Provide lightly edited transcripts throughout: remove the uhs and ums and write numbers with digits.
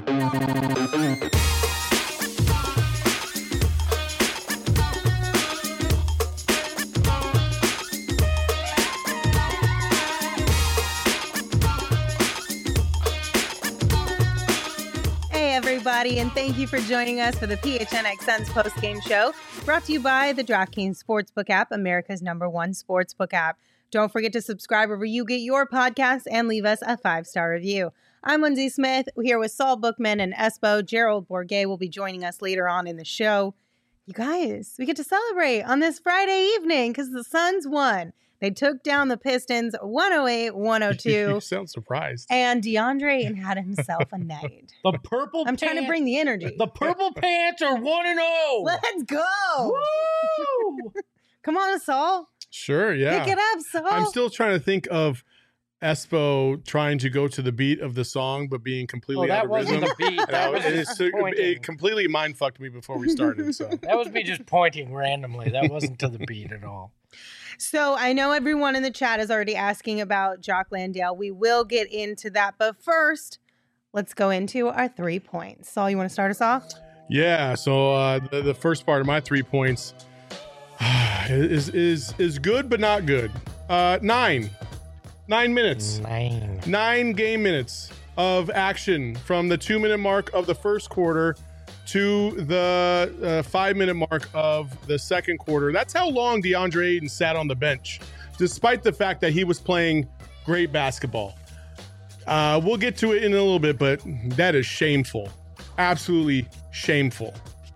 Everybody, and thank you for joining us for the PHNX Suns post-game show, brought to you by the DraftKings Sportsbook app, America's #1 sportsbook app. Don't forget to subscribe wherever you get your podcasts and leave us a 5-star review. I'm Lindsay Smith, here with Saul Bookman and Espo. Gerald Bourguet will be joining us later on in the show. You guys, we get to celebrate on this Friday evening because the Suns won. They took down the Pistons 108-102. You sound surprised. And DeAndre Ayton had himself a night. The purple I'm trying to bring the energy. The Purple Pants are 1-0. Let's go. Woo! Come on, Saul. Sure, yeah. Pick it up, Saul. I'm still trying to think of Espo trying to go to the beat of the song, but being completely out of rhythm. That wasn't the beat. That was just pointing. It completely mind-fucked me before we started. So that was me just pointing randomly. That wasn't to the beat at all. So I know everyone in the chat is already asking about Jock Landale. We will get into that. But first, let's go into our 3 points. Saul, you want to start us off? Yeah. So the first part of my 3 points is good, but not good. 9 minutes. 9 game minutes of action from the 2-minute mark of the first quarter to the 5-minute mark of the second quarter. That's how long DeAndre Ayton sat on the bench, despite the fact that he was playing great basketball. We'll get to it in a little bit, but that is shameful. Absolutely shameful.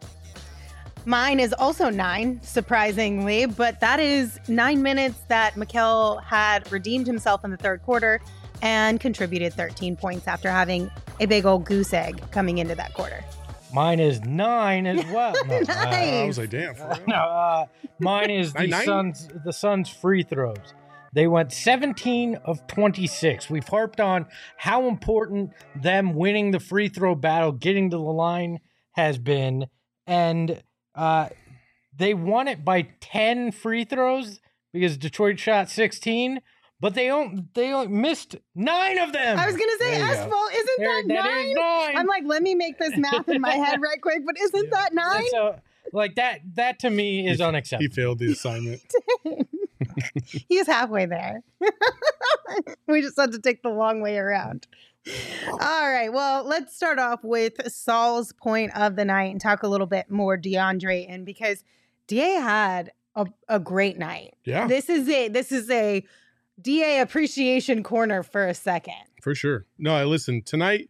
Mine is also 9, surprisingly, but that is 9 minutes that Mikal had redeemed himself in the third quarter and contributed 13 points after having a big old goose egg coming into that quarter. Mine is 9 as well. No, Nice. I was like, damn. For real? Mine is the Suns free throws. They went 17 of 26. We've harped on how important them winning the free throw battle, getting to the line has been, and they won it by 10 free throws because Detroit shot 16. But they only missed 9 of them. I was going to say, Espo, isn't that 9? That is 9. I'm like, let me make this math in my head right quick, but isn't that 9? Like that to me is unacceptable. He failed the assignment. He's halfway there. We just had to take the long way around. All right, well, let's start off with Saul's point of the night and talk a little bit more DeAndre Ayton because DA had a great night. Yeah. This is a DA appreciation corner for a second. For sure. No, listen, tonight,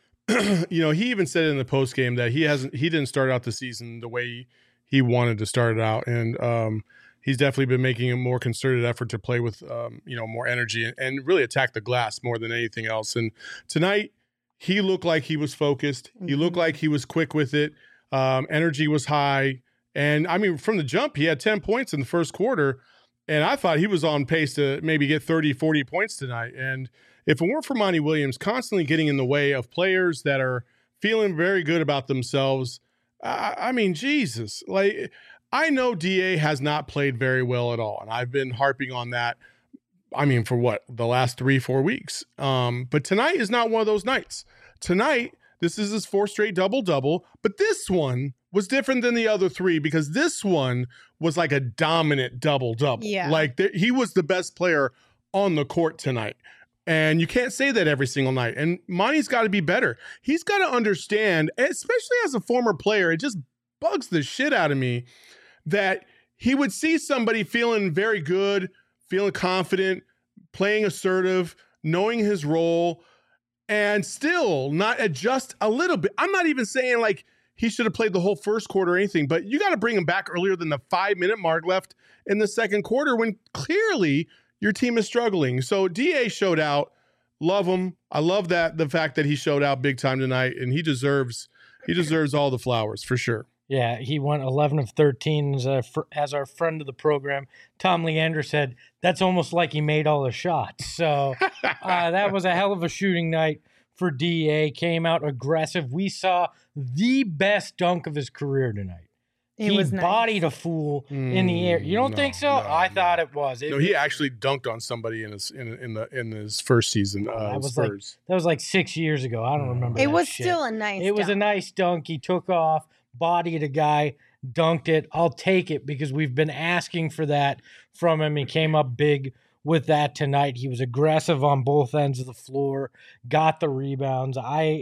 he even said in the post game that he didn't start out the season the way he wanted to start it out. And he's definitely been making a more concerted effort to play with, more energy and really attack the glass more than anything else. And tonight he looked like he was focused. Mm-hmm. He looked like he was quick with it. Energy was high. And I mean, from the jump, he had 10 points in the first quarter. And I thought he was on pace to maybe get 30, 40 points tonight. And if it weren't for Monty Williams constantly getting in the way of players that are feeling very good about themselves, I mean, Jesus. Like, I know DA has not played very well at all. And I've been harping on that, I mean, for the last 3-4 weeks. But tonight is not one of those nights. Tonight, this is his 4th straight double-double. But this one was different than the other 3 because this one was like a dominant double-double. Yeah. Like he was the best player on the court tonight. And you can't say that every single night. And Monty's got to be better. He's got to understand, especially as a former player, it just bugs the shit out of me that he would see somebody feeling very good, feeling confident, playing assertive, knowing his role, and still not adjust a little bit. I'm not even saying like he should have played the whole first quarter or anything, but you got to bring him back earlier than the 5-minute mark left in the second quarter when clearly your team is struggling. So DA showed out. Love him. I love the fact that he showed out big time tonight, and he deserves all the flowers for sure. Yeah, he went 11 of 13 as our friend of the program, Tom Leander, said. That's almost like he made all the shots. So that was a hell of a shooting night for DA. Came out aggressive. We saw the best dunk of his career tonight. He was nice. bodied a fool in the air. You don't think so? I thought it was. He actually dunked on somebody in his first season. That was like 6 years ago. I don't remember. It was shit. still a nice. It was a nice dunk. He took off, bodied a guy, dunked it. I'll take it because we've been asking for that from him. He came up big with that tonight. He was aggressive on both ends of the floor, got the rebounds.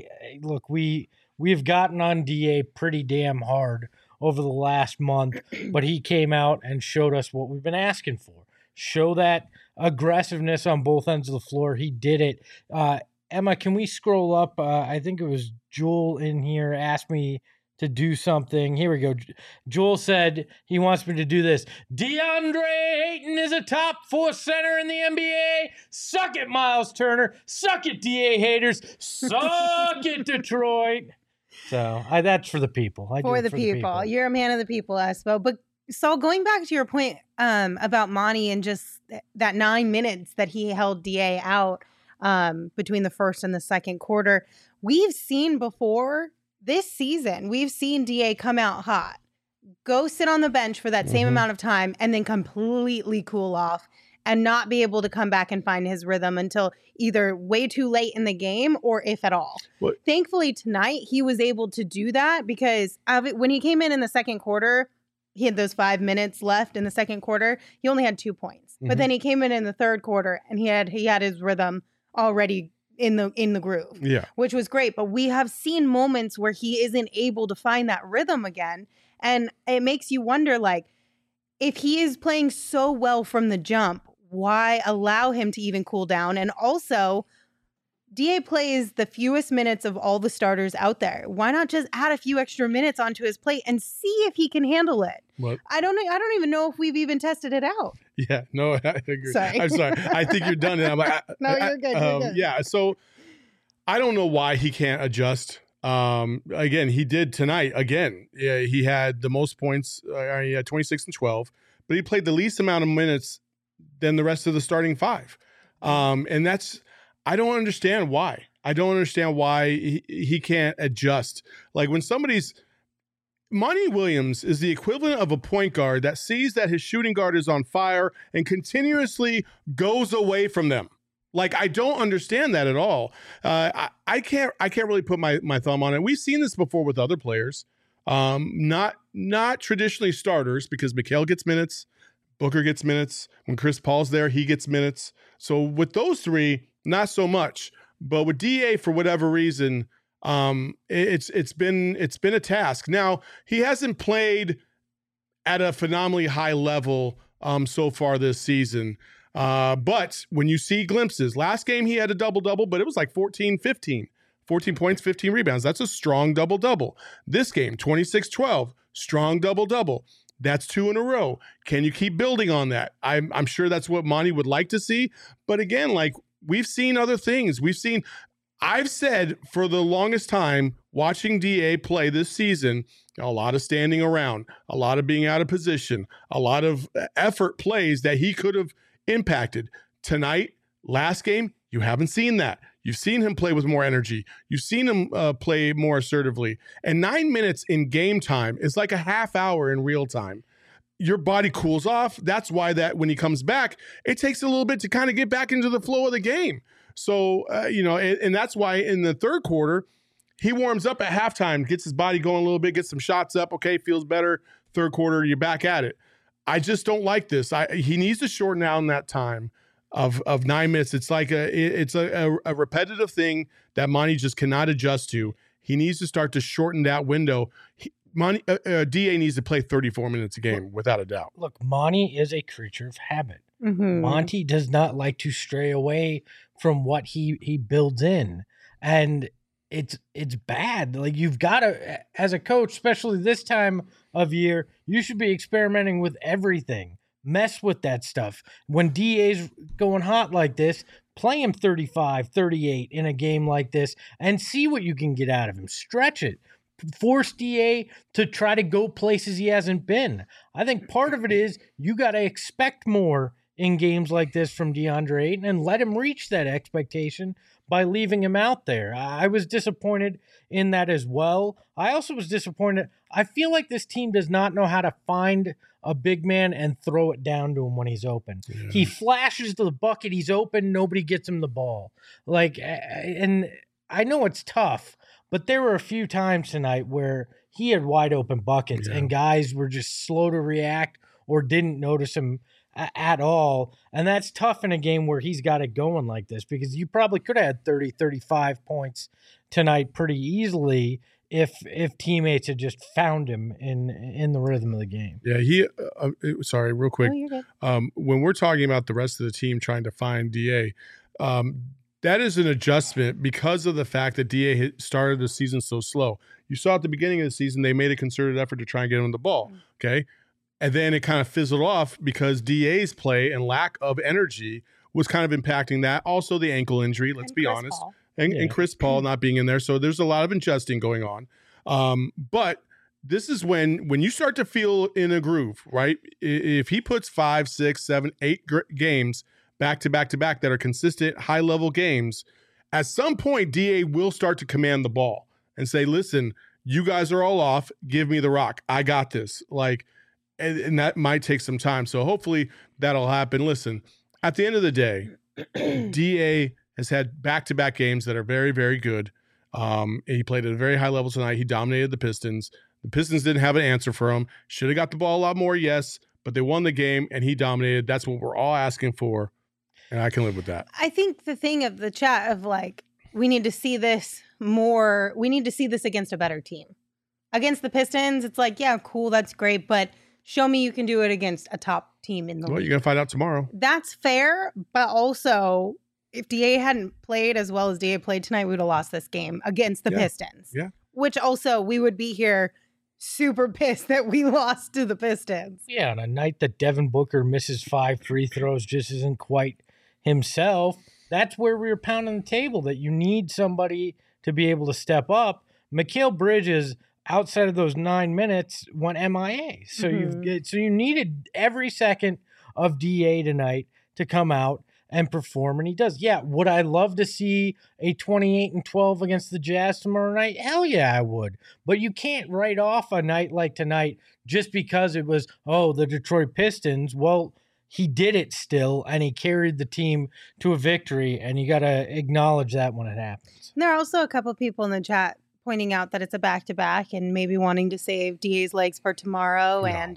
We've gotten on DA pretty damn hard over the last month, but he came out and showed us what we've been asking for. Show that aggressiveness on both ends of the floor. He did it. Emma, can we scroll up? I think it was Joel in here asked me to do something. Here we go. Joel said he wants me to do this. DeAndre Ayton is a top 4 center in the NBA. Suck it, Miles Turner. Suck it, DA haters. Suck it, Detroit. So that's for the people. For the people. You're a man of the people, Espo. But Saul, going back to your point about Monty and just that 9 minutes that he held DA out between the first and the second quarter, we've seen before this season, we've seen DA come out hot, go sit on the bench for that same amount of time, and then completely cool off and not be able to come back and find his rhythm until either way too late in the game or if at all. What? Thankfully, tonight, he was able to do that because when he came in the second quarter, he had those 5 minutes left in the second quarter. He only had 2 points. But then he came in the third quarter and he had his rhythm already in the groove, which was great. But we have seen moments where he isn't able to find that rhythm again. And it makes you wonder, like, if he is playing so well from the jump, why allow him to even cool down? And also, DA plays the fewest minutes of all the starters out there. Why not just add a few extra minutes onto his plate and see if he can handle it? What? I don't even know if we've even tested it out. Yeah, no, I agree. Sorry. I'm sorry. I think you're done. And I'm like, no, you're good. You're good. Yeah, so I don't know why he can't adjust. Again, he did tonight. Again, he had the most points. He had 26 and 12, but he played the least amount of minutes than the rest of the starting 5. And I don't understand why. I don't understand why he can't adjust. Like when Monty Williams is the equivalent of a point guard that sees that his shooting guard is on fire and continuously goes away from them. Like, I don't understand that at all. I can't really put my thumb on it. We've seen this before with other players, not traditionally starters, because Mikal gets minutes, Booker gets minutes. When Chris Paul's there, he gets minutes. So with those three, not so much. But with DA, for whatever reason, it's been a task. Now, he hasn't played at a phenomenally high level so far this season. But when you see glimpses, last game he had a double-double, but it was like 14-15. 14 points, 15 rebounds. That's a strong double-double. This game, 26-12, strong double-double. That's 2 in a row. Can you keep building on that? I'm sure that's what Monty would like to see. But again, like, we've seen other things. I've said for the longest time, watching DA play this season, a lot of standing around, a lot of being out of position, a lot of effort plays that he could have impacted. Tonight, last game, you haven't seen that. You've seen him play with more energy. You've seen him play more assertively. And 9 minutes in game time is like a half hour in real time. Your body cools off. That's why that when he comes back, it takes a little bit to kind of get back into the flow of the game. So, and that's why in the third quarter, he warms up at halftime, gets his body going a little bit, gets some shots up. Okay, feels better. Third quarter, you're back at it. I just don't like this. He needs to shorten down that time of 9 minutes. It's like a repetitive thing that Monty just cannot adjust to. He needs to start to shorten that window. DA needs to play 34 minutes a game, without a doubt. Look, Monty is a creature of habit. Mm-hmm. Monty does not like to stray away from what he builds in. And it's bad. Like, you've got to, as a coach, especially this time of year, you should be experimenting with everything. Mess with that stuff. When DA's going hot like this, play him 35, 38 in a game like this and see what you can get out of him. Stretch it. Force DA to try to go places he hasn't been. I think part of it is you got to expect more in games like this from DeAndre Ayton and let him reach that expectation by leaving him out there. I was disappointed in that as well. I also was disappointed. I feel like this team does not know how to find a big man and throw it down to him when he's open. Yeah. He flashes to the bucket, he's open, nobody gets him the ball. And I know it's tough, but there were a few times tonight where he had wide open buckets and guys were just slow to react or didn't notice him at all. And that's tough in a game where he's got it going like this, because you probably could have had 30, 35 points tonight pretty easily if teammates had just found him in the rhythm of the game. Yeah, sorry, real quick. Oh, you're good. When we're talking about the rest of the team trying to find DA, that is an adjustment because of the fact that DA had started the season so slow. You saw at the beginning of the season, they made a concerted effort to try and get him the ball, okay? And then it kind of fizzled off because DA's play and lack of energy was kind of impacting that. Also, the ankle injury, let's be honest. And Chris Paul not being in there. So there's a lot of adjusting going on. But this is when you start to feel in a groove, right? If he puts 5, 6, 7, 8 games back to back to back that are consistent, high-level games, at some point, DA will start to command the ball and say, listen, you guys are all off. Give me the rock. I got this. And that might take some time. So hopefully that'll happen. Listen, at the end of the day, DA has had back-to-back games that are very, very good. He played at a very high level tonight. He dominated the Pistons. The Pistons didn't have an answer for him. Should have got the ball a lot more, yes, but they won the game, and he dominated. That's what we're all asking for, and I can live with that. I think the thing of the chat of we need to see this more. We need to see this against a better team. Against the Pistons, it's yeah, cool, that's great, but show me you can do it against a top team in the league. Well, you're going to find out tomorrow. That's fair, but also, if DA hadn't played as well as DA played tonight, we would have lost this game against the Pistons. Yeah. Which also, we would be here super pissed that we lost to the Pistons. Yeah, on a night that Devin Booker misses 5 free throws, just isn't quite himself. That's where we were pounding the table, that you need somebody to be able to step up. Mikal Bridges, outside of those 9 minutes, went MIA. So you needed every second of DA tonight to come out and perform, and he does. Yeah, would I love to see a 28-12 against the Jazz tomorrow night? Hell yeah, I would. But you can't write off a night like tonight just because it was, the Detroit Pistons. Well, he did it still, and he carried the team to a victory, and you got to acknowledge that when it happens. There are also a couple people in the chat pointing out that it's a back-to-back and maybe wanting to save DA's legs for tomorrow, and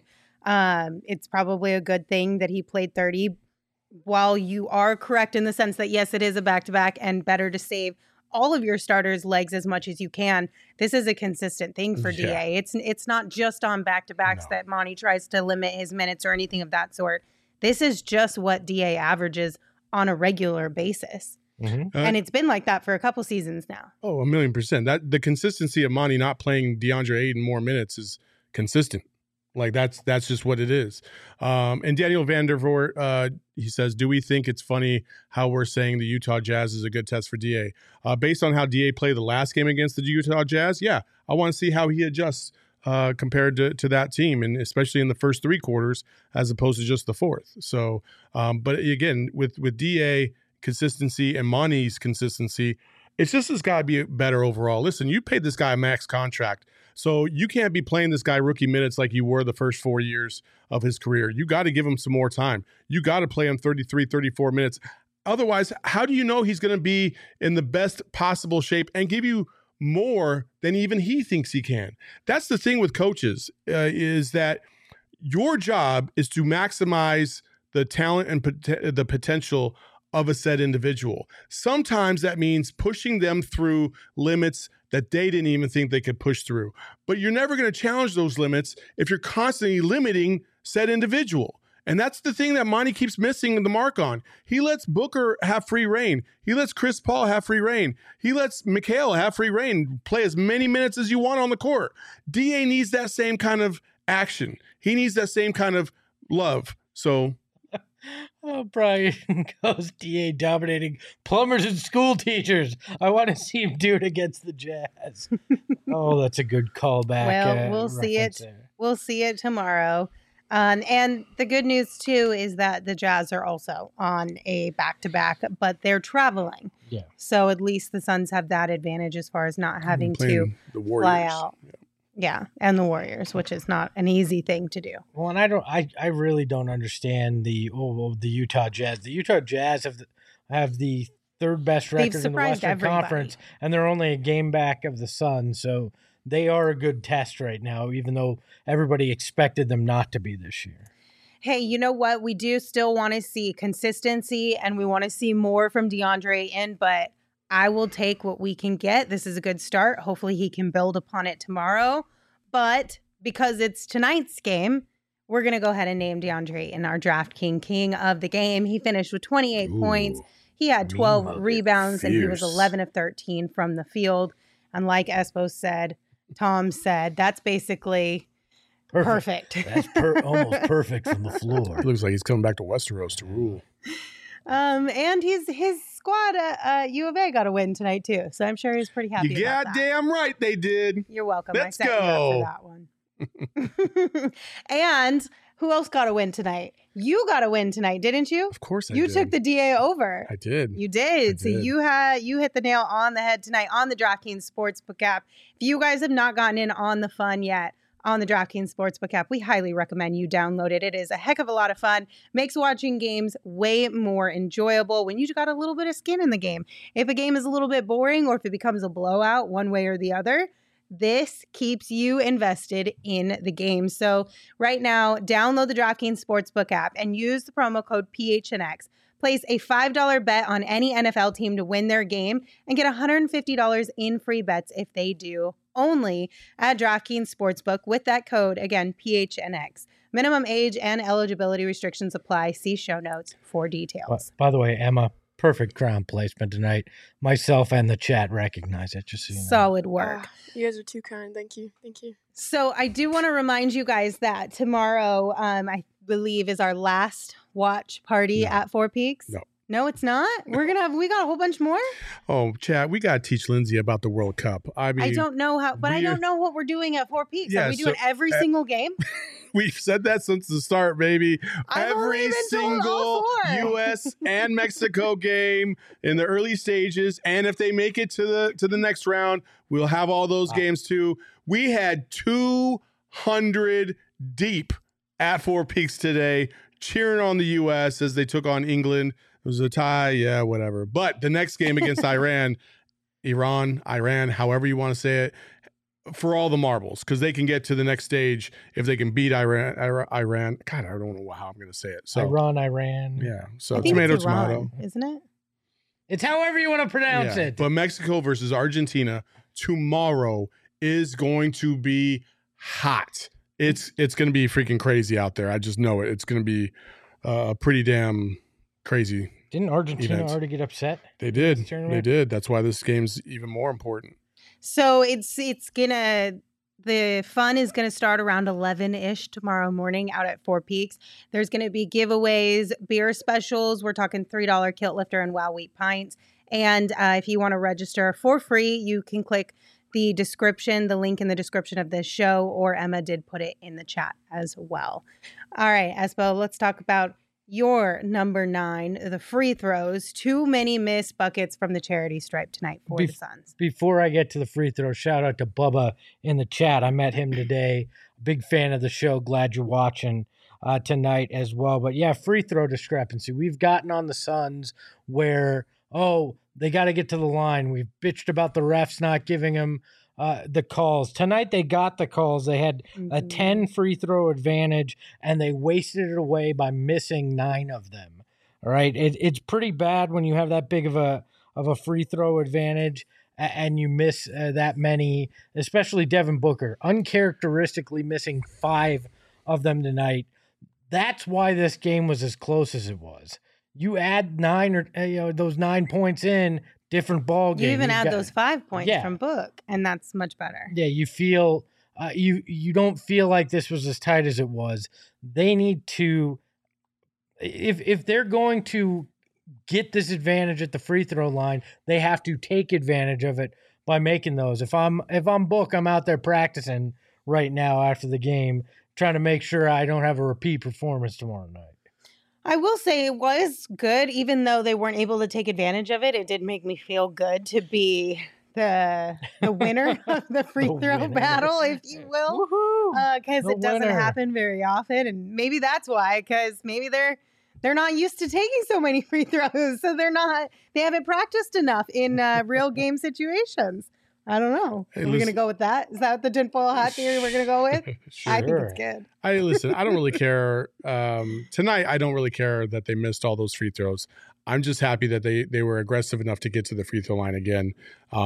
it's probably a good thing that he played 30. While you are correct in the sense that, yes, it is a back-to-back and better to save all of your starters' legs as much as you can, this is a consistent thing for DA. It's not just on back-to-backs that Monty tries to limit his minutes or anything of that sort. This is just what DA averages on a regular basis. Mm-hmm. And it's been like that for a couple seasons now. Oh, 1,000,000%. That the consistency of Monty not playing DeAndre Ayton more minutes is consistent. That's just what it is. And Daniel Vandervoort, he says, do we think it's funny how we're saying the Utah Jazz is a good test for DA? Based on how DA played the last game against the Utah Jazz, yeah, I want to see how he adjusts compared to that team, and especially in the first 3 quarters as opposed to just the fourth. So, but again, with DA consistency and Monty's consistency, it's got to be better overall. Listen, you paid this guy a max contract, so you can't be playing this guy rookie minutes like you were the first 4 years of his career. You got to give him some more time. You got to play him 33, 34 minutes. Otherwise, how do you know he's going to be in the best possible shape and give you more than even he thinks he can? That's the thing with coaches, is that your job is to maximize the talent and the potential of a said individual. Sometimes that means pushing them through limits that they didn't even think they could push through. But you're never going to challenge those limits if you're constantly limiting said individual. And that's the thing that Monty keeps missing the mark on. He lets Booker have free reign. He lets Chris Paul have free reign. He lets Mikal have free reign. Play as many minutes as you want on the court. DA needs that same kind of action. He needs that same kind of love. So... Brian goes, DA dominating plumbers and school teachers. I want to see him do it against the Jazz. That's a good callback. Well, we'll see it. There. We'll see it tomorrow. And the good news, too, is that the Jazz are also on a back-to-back, but they're traveling. Yeah. So at least the Suns have that advantage as far as not having to Playing the Warriors. fly out. Yeah, and the Warriors, which is not an easy thing to do. Well, and I really don't understand the Utah Jazz. The Utah Jazz have the third best record in the Western Conference, and they're only a game back of the Suns. So they are a good test right now, even though everybody expected them not to be this year. Hey, you know what? We do still want to see consistency, and we want to see more from DeAndre Ayton, but I will take what we can get. This is a good start. Hopefully he can build upon it tomorrow. But because it's tonight's game, we're going to go ahead and name DeAndre Ayton our king of the game. He finished with 28 points. He had 12 rebounds, and he was 11 of 13 from the field. And like Espo said, Tom said, that's basically perfect. That's almost perfect from the floor. It looks like he's coming back to Westeros to rule. And his squad, U of A, got a win tonight too, so I'm sure he's pretty happy. You goddamn right they did. You're welcome. Let's I set go. you up for that one. And who else got a win tonight? You got a win tonight, didn't you? Of course I did. You did. took the DA over. I did. You did. So did. you hit the nail on the head tonight on the DraftKings Sportsbook app. If you guys have not gotten in on the fun yet, on the DraftKings Sportsbook app, we highly recommend you download it. It is a heck of a lot of fun. Makes watching games way more enjoyable when you got a little bit of skin in the game. If a game is a little bit boring or if it becomes a blowout one way or the other, this keeps you invested in the game. So right now, download the DraftKings Sportsbook app and use the promo code PHNX. Place a $5 bet on any NFL team to win their game and get $150 in free bets if they do, only at DraftKings Sportsbook with that code, again, PHNX. Minimum age and eligibility restrictions apply. See show notes for details. By the way, Emma, perfect crown placement tonight. Myself and the chat recognize it, just so you know. Solid work. You guys are too kind. Thank you. Thank you. So I do want to remind you guys that tomorrow, I believe, is our last watch party at Four Peaks. No, it's not. We got a whole bunch more. Oh, Chad, we got to teach Lindsay about the World Cup. I mean, I don't know how, but I don't know what we're doing at Four Peaks. Yeah, Are we doing every single game? We've said that since the start, baby. I've Every single U.S. and Mexico game in the early stages, and if they make it to the next round, we'll have all those games too. We had 200 deep at Four Peaks today, cheering on the U.S. as they took on England. It was a tie, yeah, whatever. But the next game against Iran, however you want to say it, for all the marbles, because they can get to the next stage if they can beat Iran. God, I don't know how I'm going to say it. So Iran. Yeah. So I think tomato, it's Iran, tomato. isn't it? It's however you want to pronounce it. But Mexico versus Argentina tomorrow is going to be hot. It's going to be freaking crazy out there. I just know it. It's going to be pretty damn crazy. Didn't Argentina already get upset? They did. They did. That's why this game's even more important. So the fun is gonna start around 11-ish tomorrow morning out at Four Peaks. There's gonna be giveaways, beer specials. We're talking $3 Kilt Lifter and Wow Wheat pints. And if you want to register for free, you can click the link in the description of this show, or Emma did put it in the chat as well. All right, Espo, let's talk about your number 9, the free throws. Too many missed buckets from the charity stripe tonight for the Suns. Before I get to the free throw, shout out to Bubba in the chat. I met him today. Big fan of the show. Glad you're watching tonight as well. But yeah, free throw discrepancy. We've gotten on the Suns where, they got to get to the line. We've bitched about the refs not giving them the calls. Tonight they got the calls. They had a 10 free throw advantage, and they wasted it away by missing 9 of them. All right, it's pretty bad when you have that big of a free throw advantage and you miss that many, especially Devin Booker, uncharacteristically missing 5 of them tonight. That's why this game was as close as it was. You add 9 or those 9 points in, different ball game. You even add those 5 points from Book, and that's much better. Yeah, you feel you don't feel like this was as tight as it was. They need to, if they're going to get this advantage at the free throw line, they have to take advantage of it by making those. If I'm Book, I'm out there practicing right now after the game trying to make sure I don't have a repeat performance tomorrow night. I will say it was good, even though they weren't able to take advantage of it. It did make me feel good to be the winner of the free throw battle, if you will, because it doesn't happen very often, and maybe that's why. Because maybe they're not used to taking so many free throws, so they haven't practiced enough in real game situations. I don't know. Hey, we're going to go with that. Is that the tinfoil hat theory we're going to go with? Sure. I think it's good. I don't really care. Tonight, I don't really care that they missed all those free throws. I'm just happy that they were aggressive enough to get to the free throw line again.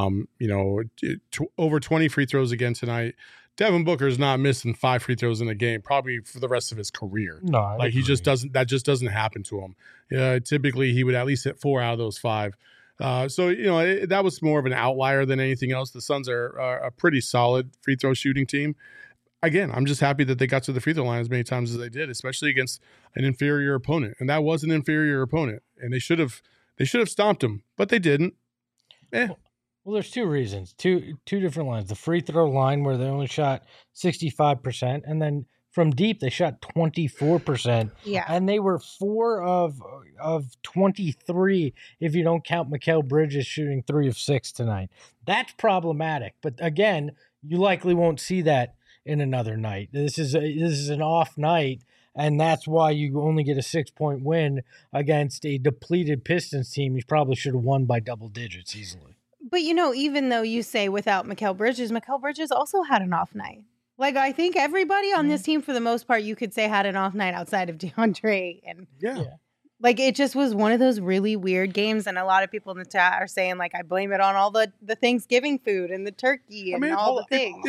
Over 20 free throws again tonight. Devin Booker's not missing 5 free throws in a game, probably for the rest of his career. No, he just doesn't. That just doesn't happen to him. Typically, he would at least hit 4 out of those 5. That was more of an outlier than anything else. The Suns are a pretty solid free throw shooting team. Again, I'm just happy that they got to the free throw line as many times as they did, especially against an inferior opponent. And that was an inferior opponent, and they should have stomped them, but they didn't. Well, there's 2 reasons, two different lines. The free throw line where they only shot 65%, and then from deep they shot 24%. Yeah, and they were 4 of 23 if you don't count Mikal Bridges shooting 3 of 6 tonight. That's problematic. But again, you likely won't see that in another night. This is an off night, and that's why you only get a 6-point win against a depleted Pistons team. You probably should have won by double digits easily. But even though you say without Mikal Bridges also had an off night. Like, I think everybody on this team, for the most part, you could say had an off night outside of DeAndre. And like, it just was one of those really weird games. And a lot of people in the chat are saying, like, I blame it on all the Thanksgiving food and the turkey and all the things.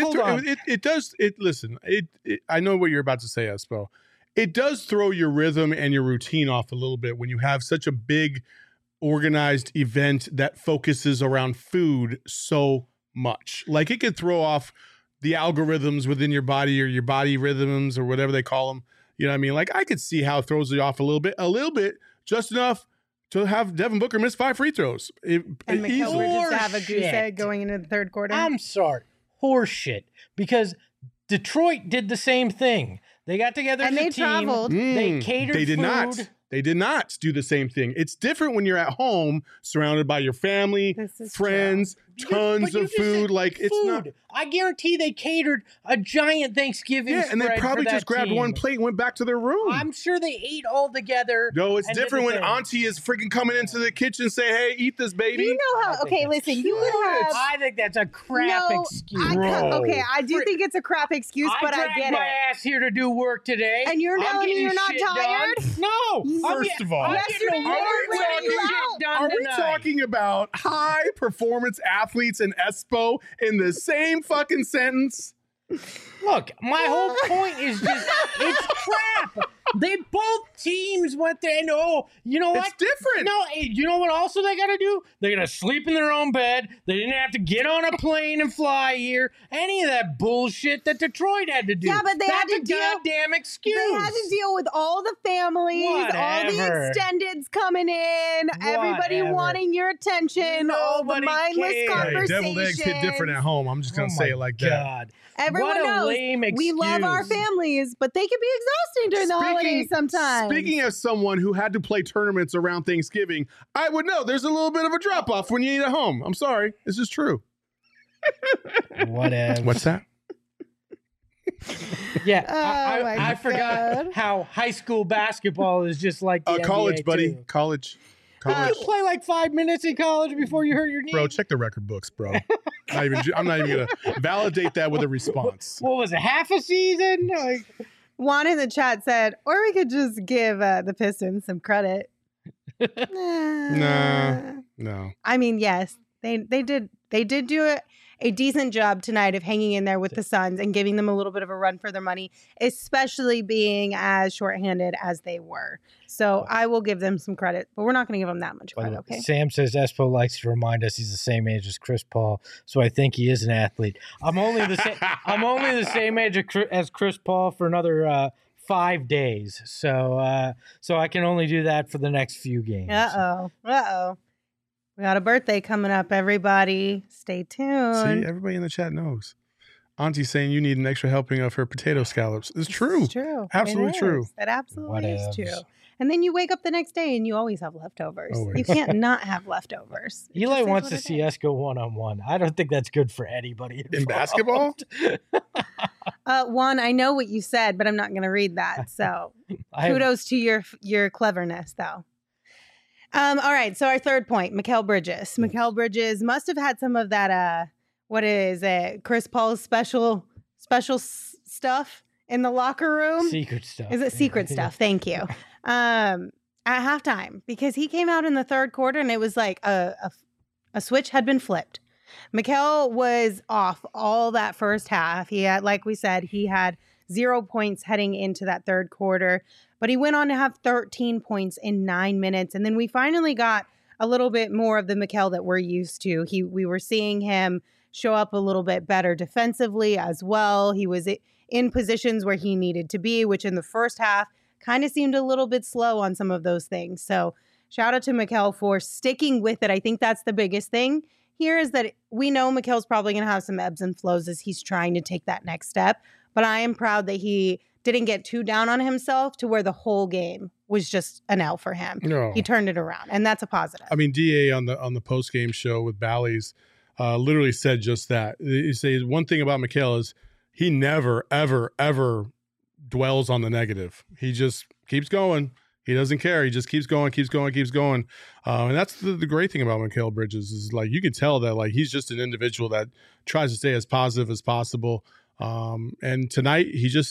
I know what you're about to say, Espo. It does throw your rhythm and your routine off a little bit when you have such a big organized event that focuses around food so much. Like, it could throw off the algorithms within your body or your body rhythms or whatever they call them. You know what I mean? Like, I could see how it throws you off a little bit, just enough to have Devin Booker miss 5 free throws. And Mikal Bridges to have a goose egg going into the third quarter. I'm sorry. Horseshit. Because Detroit did the same thing. They got together and as a they team. traveled. They catered They did food. not. They did not do the same thing. It's different when you're at home, surrounded by your family, friends, tons of food. Like, it's not. I guarantee they catered a giant Thanksgiving spread. And they probably for just grabbed team. one plate and went back to their room. I'm sure they ate all together. No, it's different when Auntie is freaking coming into the kitchen and say, "Hey, eat this, baby." You know how? Okay, listen. You would have. I think that's a crap excuse. I do think it's a crap excuse, but I get it. I dragged my ass here to do work today, and you're telling me you're not tired? No. First of all, yesterday are we talking about high performance athletes and Espo in the same fucking sentence? Look, my whole point is just, it's crap. They both teams went there and you know what? It's different. No, you know what also they got to do? They got to sleep in their own bed. They didn't have to get on a plane and fly here. Any of that bullshit that Detroit had to do. Yeah, but they had to deal. Goddamn excuse. They had to deal with all the families, all the extendeds coming in, everybody wanting your attention, all the mindless conversations. Deviled eggs hit different at home. I'm just gonna say it like that. Everyone knows we love our families, but they can be exhausting during the holidays sometimes. Speaking as someone who had to play tournaments around Thanksgiving, I would know there's a little bit of a drop off when you eat at home. I'm sorry. This is true. Whatever. What's that? Yeah, I forgot how high school basketball is just like the college, NBA buddy. too. College. You play like 5 minutes in college before you hurt your knee. Bro, check the record books, bro. I'm not even gonna validate that with a response. What was it? Half a season? Juan in the chat said, or we could just give the Pistons some credit. No. I mean, yes, they did do a decent job tonight of hanging in there with the Suns and giving them a little bit of a run for their money, especially being as shorthanded as they were. So I will give them some credit, but we're not going to give them that much credit, okay? Sam says Espo likes to remind us he's the same age as Chris Paul, so I think he is an athlete. I'm only the same age as Chris Paul for another 5 days, so I can only do that for the next few games. Uh-oh. We got a birthday coming up, everybody. Stay tuned. See, everybody in the chat knows. Auntie's saying you need an extra helping of her potato scallops. It's true. It's true. Absolutely true. It absolutely is Whatevs. true. And then you wake up the next day and you always have leftovers. Always. You can't not have leftovers. It Eli just is wants what to it see is. us go one-on-one. I don't think that's good for anybody In basketball? Juan, I know what you said, but I'm not going to read that. So kudos to your cleverness, though. All right. So our third point, Mikal Bridges. Mikal Bridges must have had some of that. What is it? Chris Paul's special stuff in the locker room. Secret stuff. Is it secret stuff? Thank you. At halftime, because he came out in the third quarter and it was like a switch had been flipped. Mikal was off all that first half. He had, like we said, he had 0 points heading into that third quarter, but he went on to have 13 points in 9 minutes. And then we finally got a little bit more of the Mikal that we're used to. We were seeing him show up a little bit better defensively as well. He was in positions where he needed to be, which in the first half kind of seemed a little bit slow on some of those things. So shout out to Mikal for sticking with it. I think that's the biggest thing here is that we know Mikal's probably going to have some ebbs and flows as he's trying to take that next step. But I am proud that he didn't get too down on himself to where the whole game was just an L for him. No. He turned it around, and that's a positive. I mean, DA on the post game show with Bally's literally said just that. He says one thing about Mikal is he never, ever, ever dwells on the negative. He just keeps going. He doesn't care. He just keeps going. And that's the great thing about Mikal Bridges is like you can tell that like he's just an individual that tries to stay as positive as possible. And tonight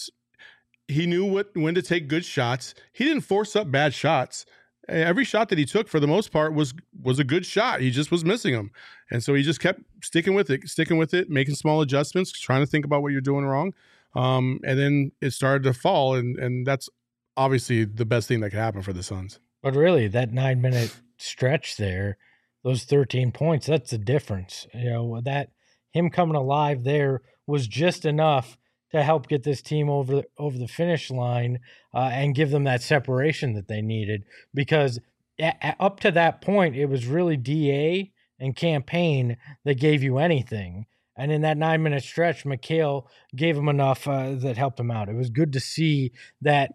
he knew when to take good shots. He didn't force up bad shots. Every shot that he took for the most part was a good shot. He just was missing them. And so he just kept sticking with it, making small adjustments, trying to think about what you're doing wrong. And then it started to fall. And that's obviously the best thing that could happen for the Suns. But really, that 9 minute stretch there, those 13 points, that's the difference. You know, that him coming alive there was just enough to help get this team over the finish line and give them that separation that they needed. Because up to that point, it was really DA and Campaign that gave you anything. And in that 9 minute stretch, Mikal gave him enough that helped him out. It was good to see that.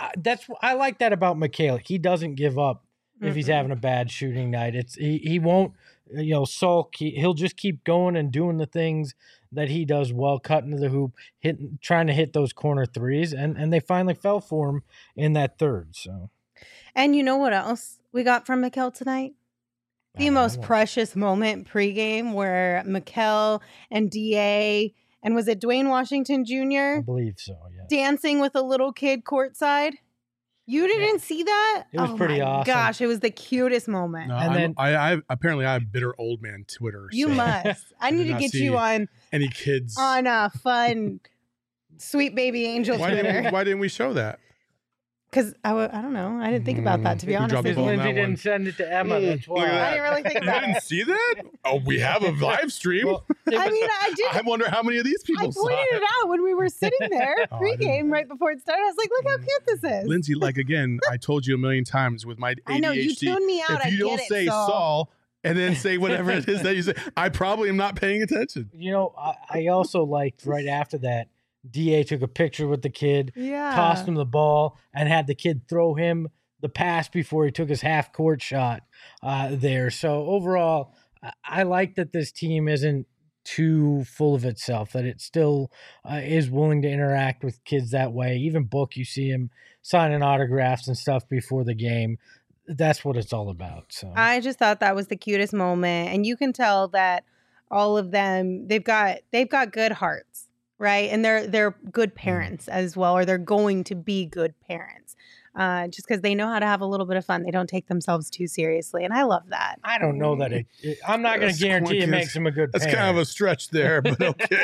I like that about Mikal. He doesn't give up if he's having a bad shooting night. He won't sulk. He'll just keep going and doing the things that he does well, cutting to the hoop, trying to hit those corner threes, and they finally fell for him in that third. So, and you know what else we got from Mikal tonight? The most precious moment pregame where Mikal and DA and was it Dwayne Washington Jr.? I believe so, yeah. Dancing with a little kid courtside. You didn't see that? It was pretty awesome. Gosh, it was the cutest moment. No, And then I apparently I have bitter old man Twitter. You so must. I need to not get see you on any kids a fun sweet baby angel Twitter. Why didn't we show that? Because I don't know. I didn't think about that, to be We honest. dropped the with ball you. on that Lindsay one. didn't send it to Emma. That's Look why. at that. I didn't really think about You didn't it. see that? Oh, we have a live stream. Well, I mean, I did. I wonder how many of these I people saw pointed it out when we were sitting there Oh, I pregame didn't. right before it started. I was like, look how cute this is. Lindsay, like again, I told you a million times with my ADHD. I know, you tuned me out. If you I don't get say it, Saul and then say whatever it is that you say, I probably am not paying attention. You know, I also liked right after that, DA took a picture with the kid, Yeah. tossed him the ball, and had the kid throw him the pass before he took his half court shot there. So overall, I like that this team isn't too full of itself, that it still is willing to interact with kids that way. Even Book, you see him signing autographs and stuff before the game. That's what it's all about. So I just thought that was the cutest moment. And you can tell that all of them, they've got good hearts, right? And they're good parents as well, or they're going to be good parents. Just because they know how to have a little bit of fun. They don't take themselves too seriously. And I love that. I don't know that I'm not going to guarantee it makes him a good That's parent. kind of a stretch there, but okay.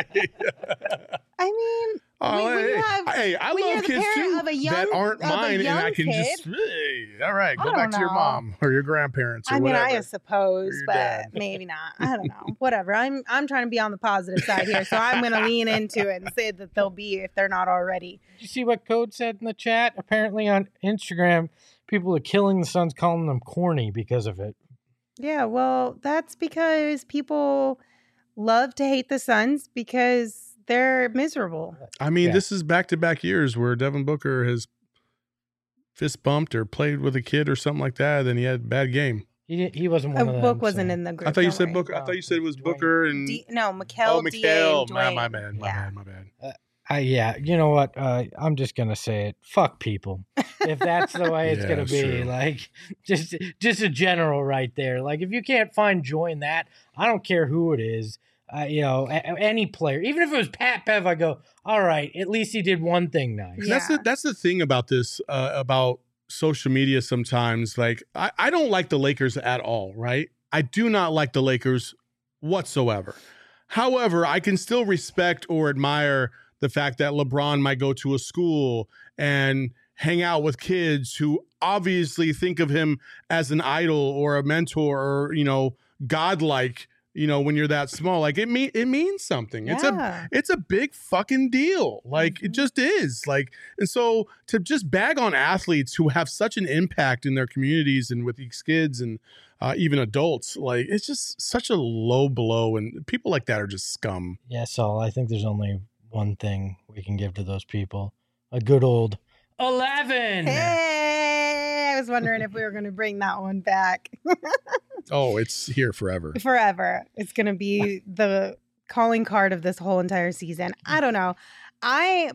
I mean, I when you're love the kids parent too of a young- that aren't of a mine, and young I can just kid. hey, all right, I go back don't to your know. mom or your grandparents or I mean, whatever. I suppose, Or your but dad. maybe not. I don't know. Whatever. I'm trying to be on the positive side here, so I'm going to lean into it and say that they'll be if they're not already. Did you see what Code said in the chat? Apparently on Instagram, people are killing the Suns, calling them corny because of it. Yeah, well, that's because people love to hate the Suns because they're miserable. I mean, this is back-to-back years where Devin Booker has fist bumped or played with a kid or something like that, then he had a bad game. He wasn't one of them. Book wasn't in the group. I thought you said Booker. I thought you said it was Booker and Mikal. Mikal. My bad. My bad. Yeah, you know what? I'm just gonna say it. Fuck people. If that's the way it's gonna be, true. like, just a general right there. Like, if you can't find joy in that, I don't care who it is. You know, any player, even if it was Pat Bev, I go, all right, at least he did one thing nice. Yeah. That's the thing about this, about social media sometimes. Like, I don't like the Lakers at all, right? I do not like the Lakers whatsoever. However, I can still respect or admire the fact that LeBron might go to a school and hang out with kids who obviously think of him as an idol or a mentor or, you know, godlike. You know, when you're that small, like it means something. Yeah. It's a big fucking deal. Like it just is. Like, and so to just bag on athletes who have such an impact in their communities and with these kids and even adults, like it's just such a low blow. And people like that are just scum. Yeah, Saul, I think there's only one thing we can give to those people: a good old 11. Hey, I was wondering if we were going to bring that one back. Oh, it's here forever. Forever. It's going to be the calling card of this whole entire season. I don't know. I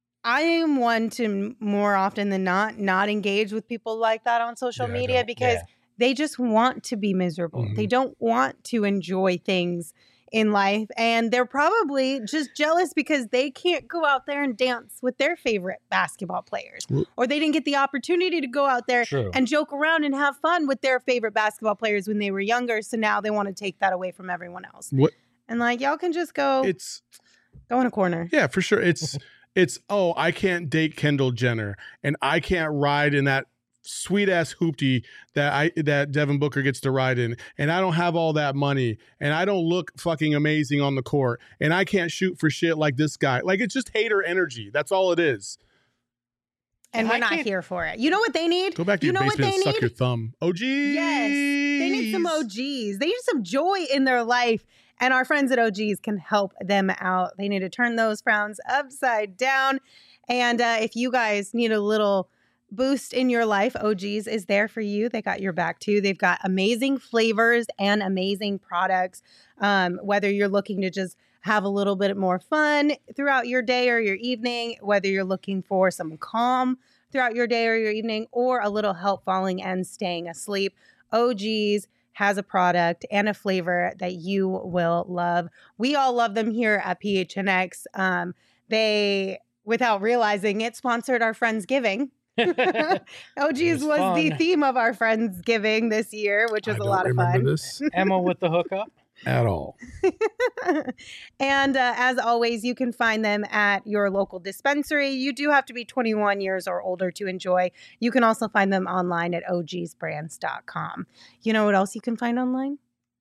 am one to more often than not engage with people like that on social media because they just want to be miserable. Mm-hmm. They don't want to enjoy things in life, and they're probably just jealous because they can't go out there and dance with their favorite basketball players, or they didn't get the opportunity to go out there and joke around and have fun with their favorite basketball players when they were younger. So now they want to take that away from everyone else. And like, y'all can just go in a corner. Yeah, for sure. It's I can't date Kendall Jenner and I can't ride in that sweet ass hoopty that Devin Booker gets to ride in, and I don't have all that money, and I don't look fucking amazing on the court, and I can't shoot for shit like this guy. Like, it's just hater energy. That's all it is. And we're not here for it. You know what they need? Go back to your basement and suck your thumb. OGs. Yes, they need some OGs. They need some joy in their life, and our friends at OGs can help them out. They need to turn those frowns upside down, and if you guys need a little boost in your life, OGs is there for you. They got your back too. They've got amazing flavors and amazing products. Whether you're looking to just have a little bit more fun throughout your day or your evening, whether you're looking for some calm throughout your day or your evening, or a little help falling and staying asleep, OGs has a product and a flavor that you will love. We all love them here at PHNX. They, without realizing it, sponsored our Friendsgiving. OGs was the theme of our Friendsgiving this year, which was a lot of fun. This. Emma with the hookup? At all. And as always, you can find them at your local dispensary. You do have to be 21 years or older to enjoy. You can also find them online at ogsbrands.com. You know what else you can find online?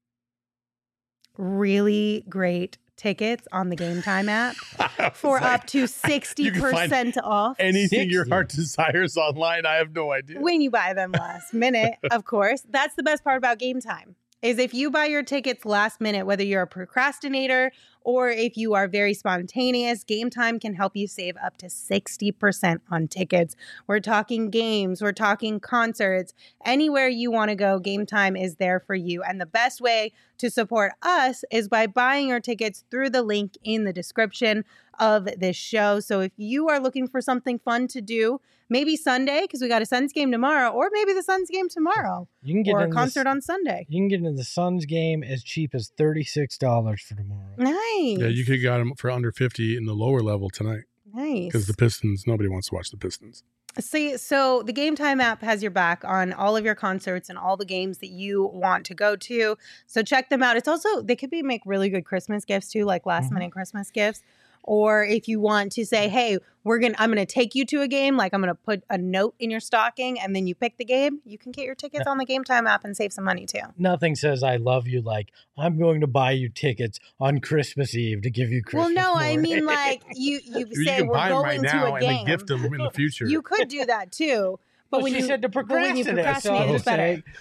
Really great tickets on the Game Time app for up to 60% off. Anything your heart desires online. I have no idea. When you buy them last minute, of course. That's the best part about Game Time. Is if you buy your tickets last minute, whether you're a procrastinator or if you are very spontaneous, Game Time can help you save up to 60% on tickets. We're talking games, we're talking concerts, anywhere you want to go, Game Time is there for you. And the best way to support us is by buying your tickets through the link in the description of this show. So if you are looking for something fun to do, maybe Sunday, because we got a Suns game tomorrow, or maybe the Suns game tomorrow, you can get or a concert on Sunday. You can get into the Suns game as cheap as $36 for tomorrow. Nice. Yeah, you could have got them for under 50 in the lower level tonight. Nice. Because the Pistons, nobody wants to watch the Pistons. See, so the Game Time app has your back on all of your concerts and all the games that you want to go to. So check them out. It's also, they could make really good Christmas gifts too, like last minute Christmas gifts. Or if you want to say, hey, I'm going to take you to a game, like I'm going to put a note in your stocking and then you pick the game, you can get your tickets on the Game Time app and save some money too. Nothing says I love you like I'm going to buy you tickets on Christmas Eve to give you Christmas Well, no, morning. I mean like you say can we're buy them going right to now a game. and then gift them in the future. You could do that too. But Well, she said to procrastinate. It's better.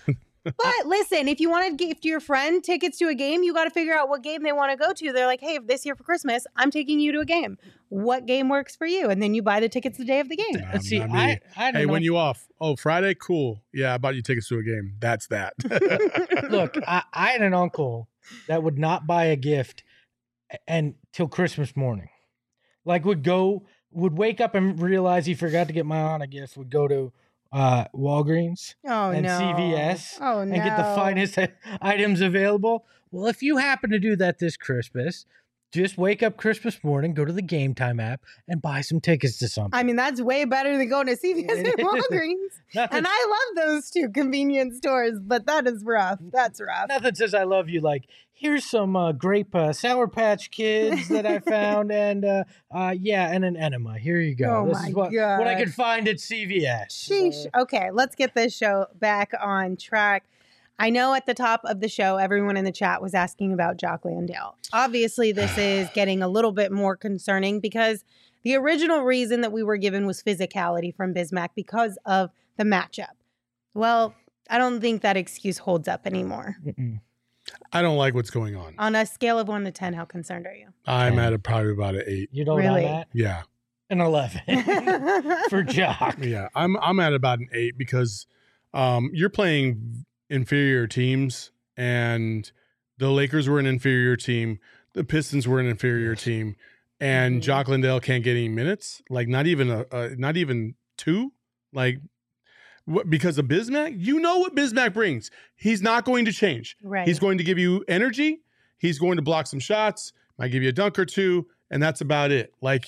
But listen, if you want to gift your friend tickets to a game, you got to figure out what game they want to go to. They're like, hey, this year for Christmas, I'm taking you to a game. What game works for you? And then you buy the tickets the day of the game. See, not me. I don't Hey, know. when you off? Oh, Friday? Cool. Yeah, I bought you tickets to a game. That's that. Look, I had an uncle that would not buy a gift till Christmas morning. Like would wake up and realize he forgot to get my aunt a gift, would go to Walgreens and CVS and get the finest items available. Well, if you happen to do that this Christmas, just wake up Christmas morning, go to the Game Time app, and buy some tickets to something. I mean, that's way better than going to CVS and Walgreens. And I love those two convenience stores, but that is rough. That's rough. Nothing says I love you like, here's some grape Sour Patch Kids that I found, and and an enema. Here you go. Oh this my is what I could find at CVS. Sheesh. Okay, let's get this show back on track. I know at the top of the show, everyone in the chat was asking about Jock Landale. Obviously, this is getting a little bit more concerning because the original reason that we were given was physicality from Bismack because of the matchup. Well, I don't think that excuse holds up anymore. I don't like what's going on. On a scale of 1 to 10, how concerned are you? I'm at probably about an 8. You know Really? what I'm at? Yeah. An 11 for Jock. Yeah. I'm at about an 8 because you're playing inferior teams, and the Lakers were an inferior team. The Pistons were an inferior team, and Jock Landale can't get any minutes. Like not even 2. Like because of Bismack. You know what Bismack brings. He's not going to change. Right. He's going to give you energy. He's going to block some shots. Might give you a dunk or two, and that's about it. Like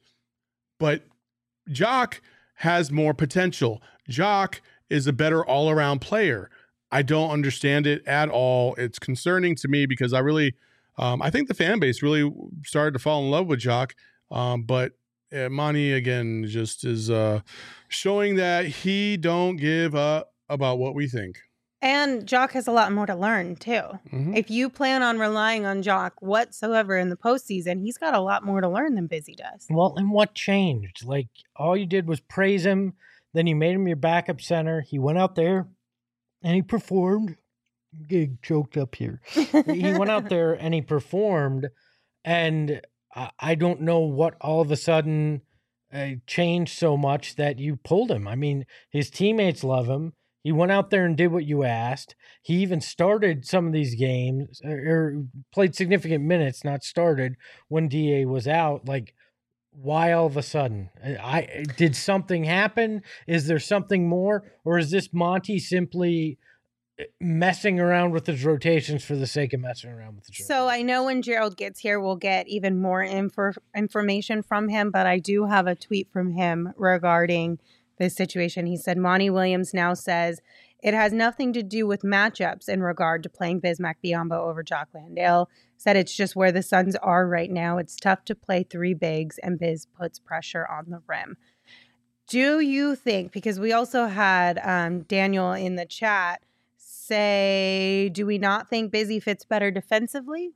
but Jock has more potential. Jock is a better all-around player. I don't understand it at all. It's concerning to me because I really, I think the fan base really started to fall in love with Jock. But Monty, again, just is showing that he don't give up about what we think. And Jock has a lot more to learn, too. Mhm. If you plan on relying on Jock whatsoever in the postseason, he's got a lot more to learn than Busy does. Well, and what changed? Like, all you did was praise him. Then you made him your backup center. He went out there and he performed. I'm getting choked up here. He went out there and he performed. And I don't know what all of a sudden changed so much that you pulled him. I mean, his teammates love him. He went out there and did what you asked. He even started some of these games or played significant minutes, not started when DA was out. Like, why all of a sudden? Did something happen? Is there something more? Or is this Monty simply messing around with his rotations for the sake of messing around with the rotations? So I know when Gerald gets here, we'll get even more information from him, but I do have a tweet from him regarding this situation. He said, Monty Williams now says it has nothing to do with matchups in regard to playing Bismack Biyombo over Jock Landale. Said it's just where the Suns are right now. It's tough to play 3 bigs, and Biz puts pressure on the rim. Do you think, because we also had Daniel in the chat say, do we not think Busy fits better defensively?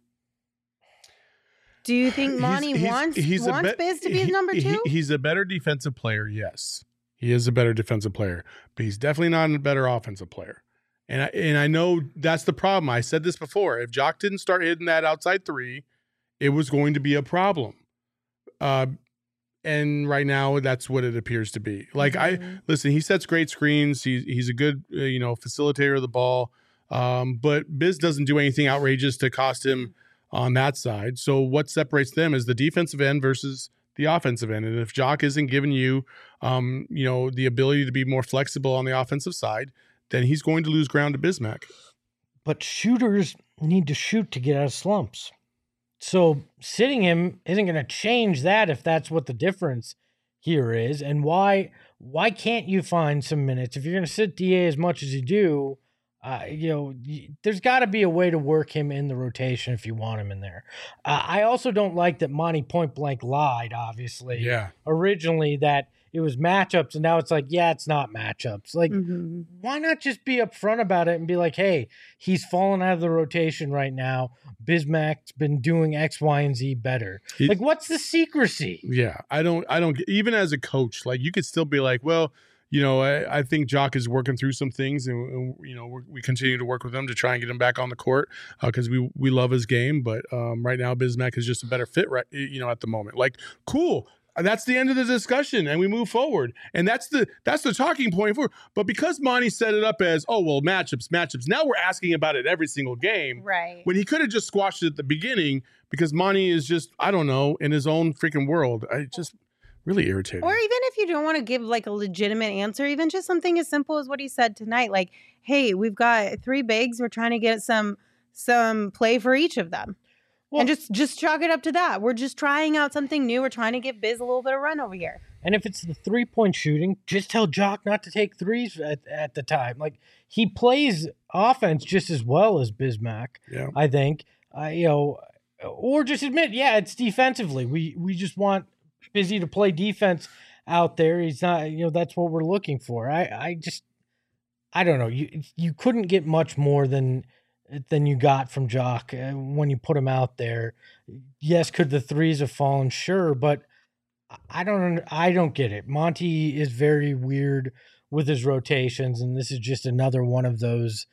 Do you think Monty wants Biz to be his number 2? He's a better defensive player, yes. He is a better defensive player, but he's definitely not a better offensive player. And I know that's the problem. I said this before. If Jock didn't start hitting that outside 3, it was going to be a problem. And right now, that's what it appears to be. Like, listen, he sets great screens. He's a good, facilitator of the ball. But Biz doesn't do anything outrageous to cost him on that side. So what separates them is the defensive end versus the offensive end. And if Jock isn't giving you, the ability to be more flexible on the offensive side, then he's going to lose ground to Bismack. But shooters need to shoot to get out of slumps. So sitting him isn't going to change that if that's what the difference here is. And why can't you find some minutes? If you're going to sit DA as much as you do, there's got to be a way to work him in the rotation if you want him in there. I also don't like that Monty point blank lied, obviously. Yeah. Originally that it was matchups, and now it's like, yeah, it's not matchups. Like, why not just be upfront about it and be like, hey, he's fallen out of the rotation right now. Bismack's been doing X, Y, and Z better. Like, what's the secrecy? Yeah, I don't. Even as a coach, like, you could still be like, well, I think Jock is working through some things, and we continue to work with him to try and get him back on the court because we love his game. But right now, Bismack is just a better fit, right? At the moment. Like, cool. That's the end of the discussion, and we move forward. And that's the talking point for. But because Monty set it up as, matchups. Now we're asking about it every single game, right? When he could have just squashed it at the beginning because Monty is just, I don't know, in his own freaking world. I just really irritating. Or even if you don't want to give like a legitimate answer, even just something as simple as what he said tonight, like, "Hey, we've got 3 bigs. We're trying to get some play for each of them." Well, and just chalk it up to that. We're just trying out something new. We're trying to give Biz a little bit of run over here. And if it's the 3-point shooting, just tell Jock not to take threes at the time. Like, he plays offense just as well as Bismack, I think. Or just admit, it's defensively. We just want Busy to play defense out there. He's not, that's what we're looking for. I don't know. You couldn't get much more than you got from Jock when you put him out there. Yes, could the threes have fallen? Sure, but I don't get it. Monty is very weird with his rotations, and this is just another one of those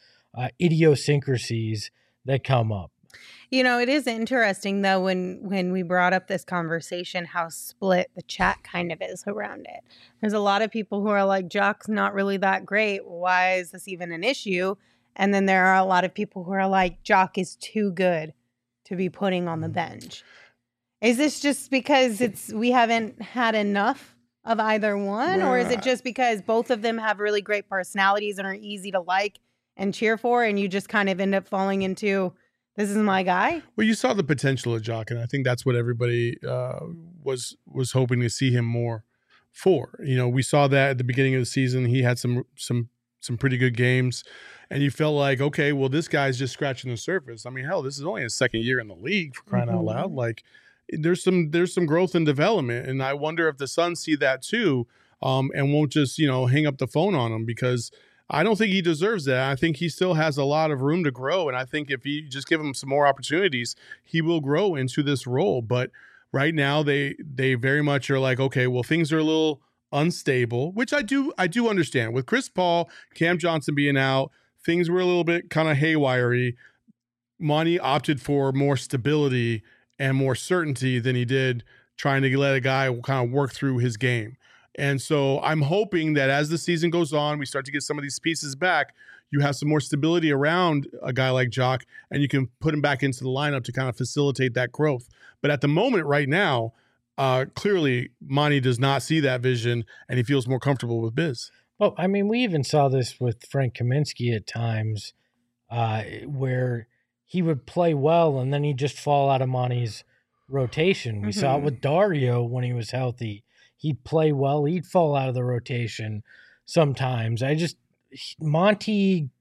idiosyncrasies that come up. It is interesting, though, when we brought up this conversation, how split the chat kind of is around it. There's a lot of people who are like, Jock's not really that great. Why is this even an issue? And then there are a lot of people who are like, Jock is too good to be putting on the bench. Is this just because we haven't had enough of either one? Or is it just because both of them have really great personalities and are easy to like and cheer for, and you just kind of end up falling into, this is my guy? Well, you saw the potential of Jock, and I think that's what everybody was hoping to see him more for. We saw that at the beginning of the season. He had some pretty good games. And you felt like, okay, well, this guy's just scratching the surface. I mean, hell, this is only his second year in the league, for crying out loud. Like, there's some growth and development, and I wonder if the Suns see that too, and won't just hang up the phone on him, because I don't think he deserves that. I think he still has a lot of room to grow, and I think if you just give him some more opportunities, he will grow into this role. But right now, they very much are like, okay, well, things are a little unstable, which I do understand. With Chris Paul, Cam Johnson being out, things were a little bit kind of haywire-y. Monty opted for more stability and more certainty than he did trying to let a guy kind of work through his game. And so I'm hoping that as the season goes on, we start to get some of these pieces back. You have some more stability around a guy like Jock, and you can put him back into the lineup to kind of facilitate that growth. But at the moment right now, clearly Monty does not see that vision, and he feels more comfortable with Biz. Well, I mean, we even saw this with Frank Kaminsky at times, where he would play well and then he'd just fall out of Monty's rotation. We saw it with Dario when he was healthy. He'd play well, he'd fall out of the rotation sometimes. Monty,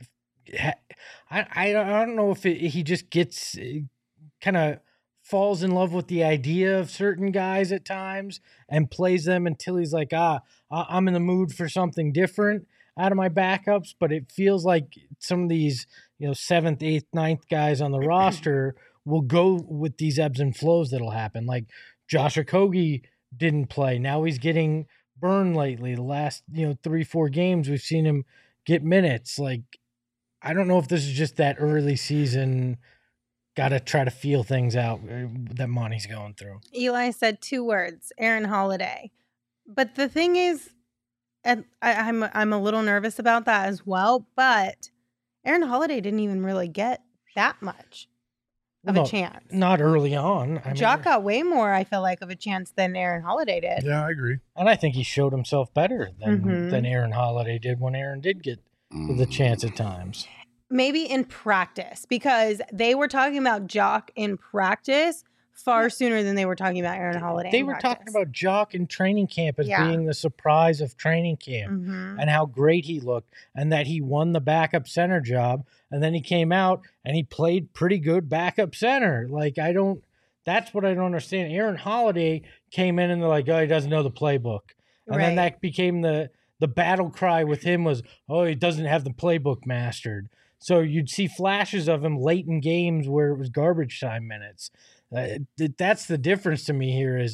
I don't know if he just gets kind of falls in love with the idea of certain guys at times and plays them until he's like, I'm in the mood for something different out of my backups. But it feels like some of these, 7th, 8th, 9th guys on the roster will go with these ebbs and flows that'll happen. Like Josh Okogie didn't play. Now he's getting burned lately. The last, 3-4 games, we've seen him get minutes. Like, I don't know if this is just that early season, got to try to feel things out that Monty's going through. Eli said 2 words, Aaron Holiday. But the thing is, and I'm a little nervous about that as well, but Aaron Holiday didn't even really get that much of a chance. Not early on. Jock got way more, I feel like, of a chance than Aaron Holiday did. Yeah, I agree. And I think he showed himself better than Aaron Holiday did when Aaron did get the chance at times. Maybe in practice, because they were talking about Jock in practice far sooner than they were talking about Aaron Holiday. They were talking about Jock in training camp as being the surprise of training camp and how great he looked and that he won the backup center job. And then he came out and he played pretty good backup center. Like, that's what I don't understand. Aaron Holiday came in and they're like, he doesn't know the playbook. And then that became the battle cry with him was, he doesn't have the playbook mastered. So you'd see flashes of him late in games where it was garbage time minutes. That's the difference to me here is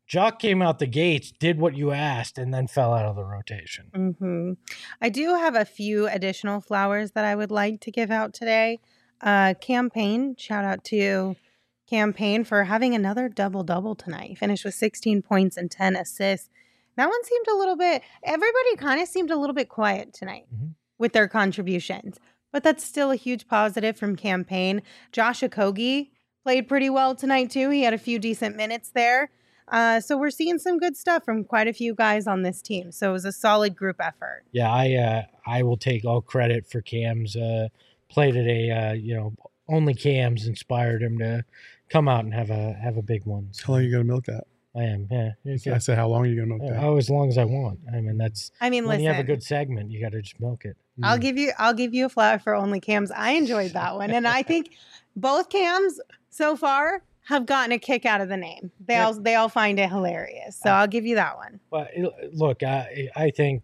Jock came out the gates, did what you asked, and then fell out of the rotation. Mm-hmm. I do have a few additional flowers that I would like to give out today. Campaign, shout out to Campaign for having another double-double tonight. He finished with 16 points and 10 assists. That one seemed a little bit, everybody kind of seemed a little bit quiet tonight with their contributions. But that's still a huge positive from Campaign. Josh Okogie played pretty well tonight, too. He had a few decent minutes there. So we're seeing some good stuff from quite a few guys on this team. So it was a solid group effort. Yeah, I will take all credit for Cam's play today. Only Cam's inspired him to come out and have a big one. So. How long are you going to milk that? I am, yeah. I said, how long are you going to milk that? Oh, as long as I want. When listen, you have a good segment, you got to just milk it. I'll give you a flower for only Cams. I enjoyed that one. And I think both Cams so far have gotten a kick out of the name. They all find it hilarious. So I'll give you that one. Well, look, I think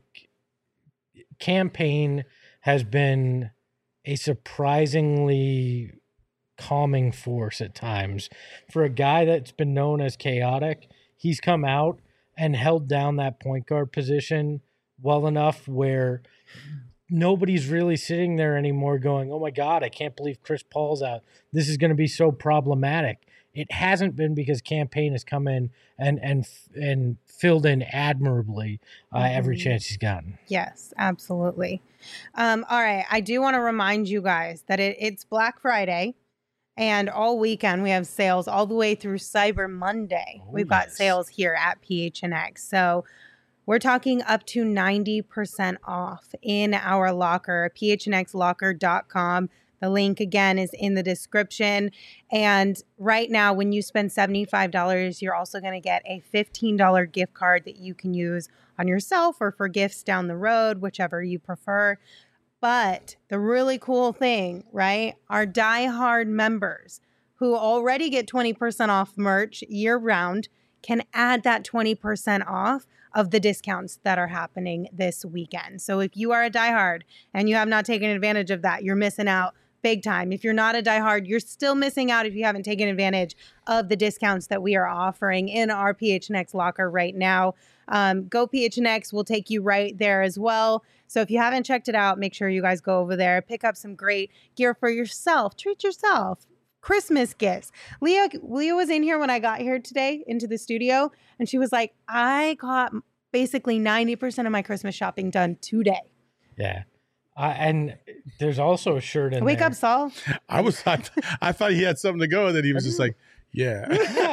Campaign has been a surprisingly calming force at times. For a guy that's been known as chaotic, he's come out and held down that point guard position well enough where nobody's really sitting there anymore going, oh my God, I can't believe Chris Paul's out. This is going to be so problematic. It hasn't been because Campaign has come in and filled in admirably every chance he's gotten. Yes, absolutely. All right. I do want to remind you guys that it's Black Friday and all weekend we have sales all the way through Cyber Monday. We've got sales here at PHNX. So we're talking up to 90% off in our locker, phnxlocker.com. The link, again, is in the description. And right now, when you spend $75, you're also going to get a $15 gift card that you can use on yourself or for gifts down the road, whichever you prefer. But the really cool thing, right, our diehard members who already get 20% off merch year-round can add that 20% off of the discounts that are happening this weekend. So if you are a diehard and you have not taken advantage of that, you're missing out big time. If you're not a diehard, you're still missing out if you haven't taken advantage of the discounts that we are offering in our PHNX locker right now. Go PHNX will take you right there as well. So if you haven't checked it out, make sure you guys go over there, pick up some great gear for yourself, treat yourself. Christmas gifts. Leah was in here when I got here today into the studio, and she was like, I got basically 90% of my Christmas shopping done today. Yeah. And there's also a shirt in Wake there. up, Saul. I thought he had something to go, and then he was just like, yeah.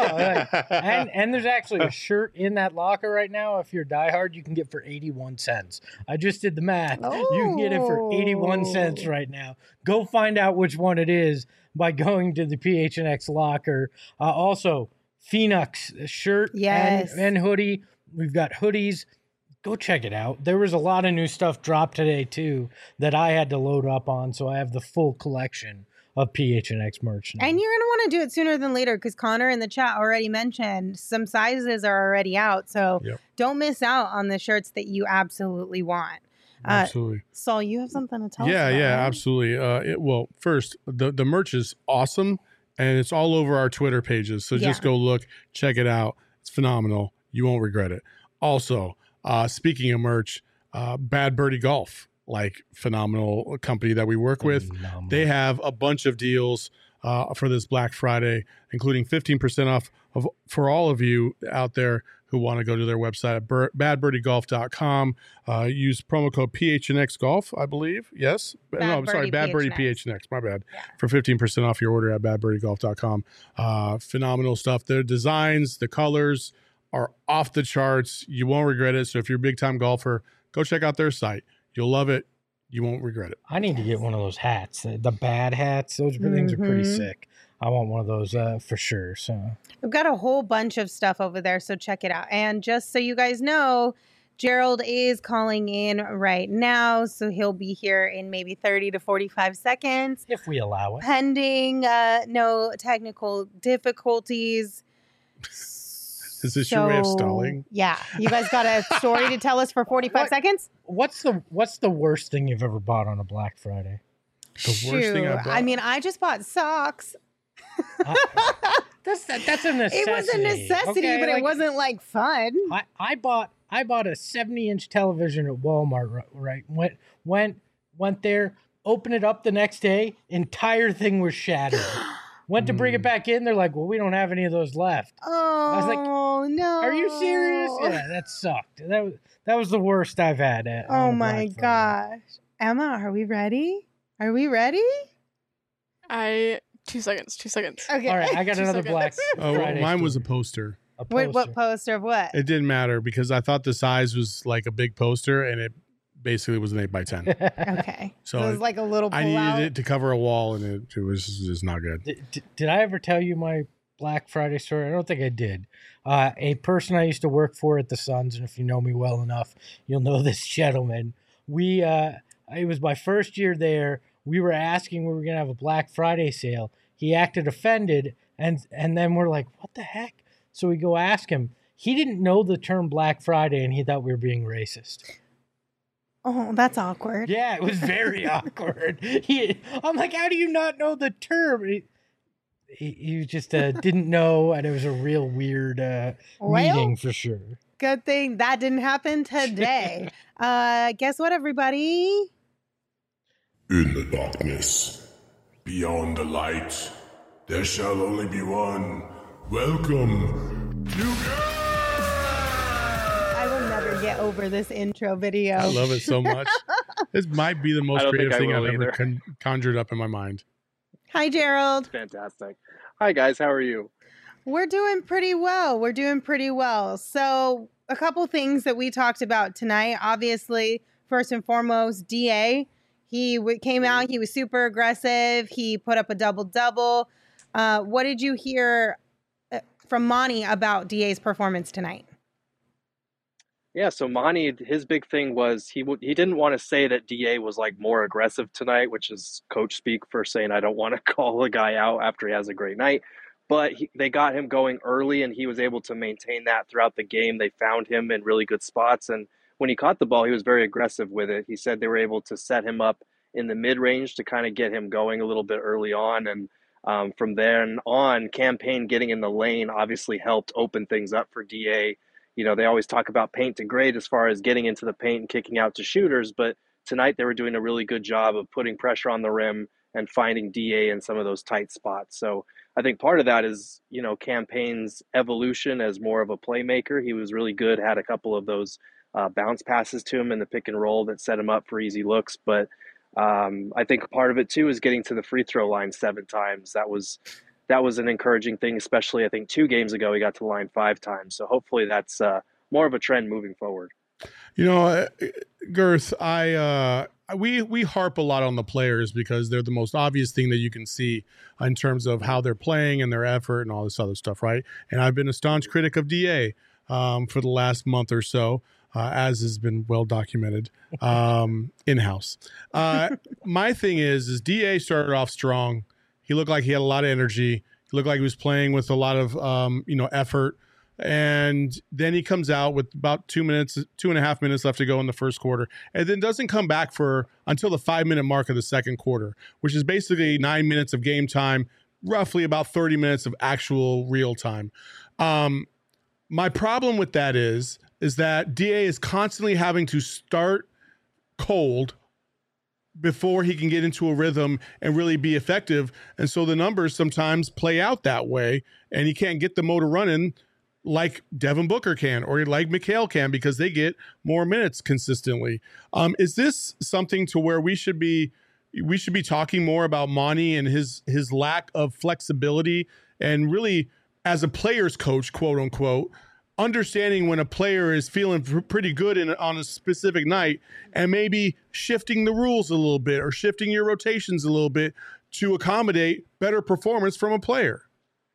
No, and there's actually a shirt in that locker right now. If you're diehard, you can get for 81 cents. I just did the math. Oh. You can get it for 81 cents right now. Go find out which one it is by going to the PHNX locker. Also, Phoenix shirt and hoodie. We've got hoodies. Go check it out. There was a lot of new stuff dropped today, too, that I had to load up on, so I have the full collection of PHNX merch now. And you're going to want to do it sooner than later because Connor in the chat already mentioned some sizes are already out. So don't miss out on the shirts that you absolutely want. Absolutely. Saul, you have something to tell us about, Yeah, right? absolutely. Well, first, the merch is awesome, and it's all over our Twitter pages. So just go look, check it out. It's phenomenal. You won't regret it. Also, speaking of merch, Bad Birdie Golf, like phenomenal company that we work with. They have a bunch of deals for this Black Friday, including 15% off for all of you out there who want to go to their website at badbirdiegolf.com. Use promo code PHNXGolf, I believe. Yes. Bad Birdie PHNX. My bad. Yeah. For 15% off your order at badbirdiegolf.com. Phenomenal stuff. Their designs, the colors are off the charts. You won't regret it. So if you're a big time golfer, go check out their site. You'll love it. You won't regret it. I need to get one of those hats, the bad hats. Those things are pretty sick. I want one of those for sure. So we've got a whole bunch of stuff over there, so check it out. And just so you guys know, Gerald is calling in right now, so he'll be here in maybe 30 to 45 seconds. If we allow it. Pending no technical difficulties. Is this your way of stalling? Yeah. You guys got a story to tell us for 45 seconds? What's the worst thing you've ever bought on a Black Friday? The worst thing I bought? I mean, I just bought socks. That's a necessity. It was a necessity, okay? but it wasn't like fun. I bought a 70-inch television at Walmart. Right, went there, opened it up the next day, entire thing was shattered. Went to bring it back in. They're like, well, we don't have any of those left. Oh, I was like, no. Are you serious? Yeah, that sucked. That was the worst I've had. Oh my gosh. Emma, are we ready? Are we ready? 2 seconds. Okay. All right, I got another Black Oh, Friday mine was a story. poster. A poster. What poster of what? It didn't matter because I thought the size was like a big poster, and it basically was an 8x10. Okay. So it was like a little I pull-out. needed it to cover a wall, and it was just not good. Did I ever tell you my Black Friday story? I don't think I did. A person I used to work for at the Suns, and if you know me well enough, you'll know this gentleman. It was my first year there. We were asking we were going to have a Black Friday sale. He acted offended, and then we're like, what the heck? So we go ask him. He didn't know the term Black Friday, and he thought we were being racist. Oh, that's awkward. Yeah, it was very awkward. I'm like, how do you not know the term? He just didn't know, and it was a real weird meeting for sure. Good thing that didn't happen today. Guess what, everybody? In the darkness, beyond the light, there shall only be one. Welcome to... I will never get over this intro video. I love it so much. This might be the most creative thing I've ever either. conjured up in my mind. Hi, Gerald. Fantastic. Hi, guys. How are you? We're doing pretty well. So a couple things that we talked about tonight. Obviously, first and foremost, DA. He came out. He was super aggressive. He put up a double-double. What did you hear from Monty about DA's performance tonight? Yeah, so Monty, his big thing was he didn't want to say that DA was like more aggressive tonight, which is coach speak for saying I don't want to call a guy out after he has a great night. But they got him going early, and he was able to maintain that throughout the game. They found him in really good spots, and when he caught the ball, he was very aggressive with it. He said they were able to set him up in the mid-range to kind of get him going a little bit early on, and from then on, Campaign getting in the lane obviously helped open things up for DA. You know, they always talk about paint to grade as far as getting into the paint and kicking out to shooters, but tonight they were doing a really good job of putting pressure on the rim and finding DA in some of those tight spots. So I think part of that is, you know, Campaign's evolution as more of a playmaker. He was really good, had a couple of those bounce passes to him in the pick and roll that set him up for easy looks. But I think part of it, too, is getting to the free throw line 7 times. That was an encouraging thing, especially I think 2 games ago he got to the line 5 times. So hopefully that's more of a trend moving forward. You know, Girth, we harp a lot on the players because they're the most obvious thing that you can see in terms of how they're playing and their effort and all this other stuff, right? And I've been a staunch critic of DA for the last month or so, as has been well documented in-house. My thing is DA started off strong. He looked like he had a lot of energy. He looked like he was playing with a lot of effort. And then he comes out with about 2.5 minutes left to go in the first quarter, and then doesn't come back until the 5-minute mark of the second quarter, which is basically 9 minutes of game time, roughly about 30 minutes of actual real time. My problem with that is that DA is constantly having to start cold before he can get into a rhythm and really be effective. And so the numbers sometimes play out that way, and he can't get the motor running like Devin Booker can or like Mikal can because they get more minutes consistently. Is this something to where we should be talking more about Monty and his lack of flexibility and really as a player's coach, quote unquote, understanding when a player is feeling pretty good on a specific night and maybe shifting the rules a little bit or shifting your rotations a little bit to accommodate better performance from a player?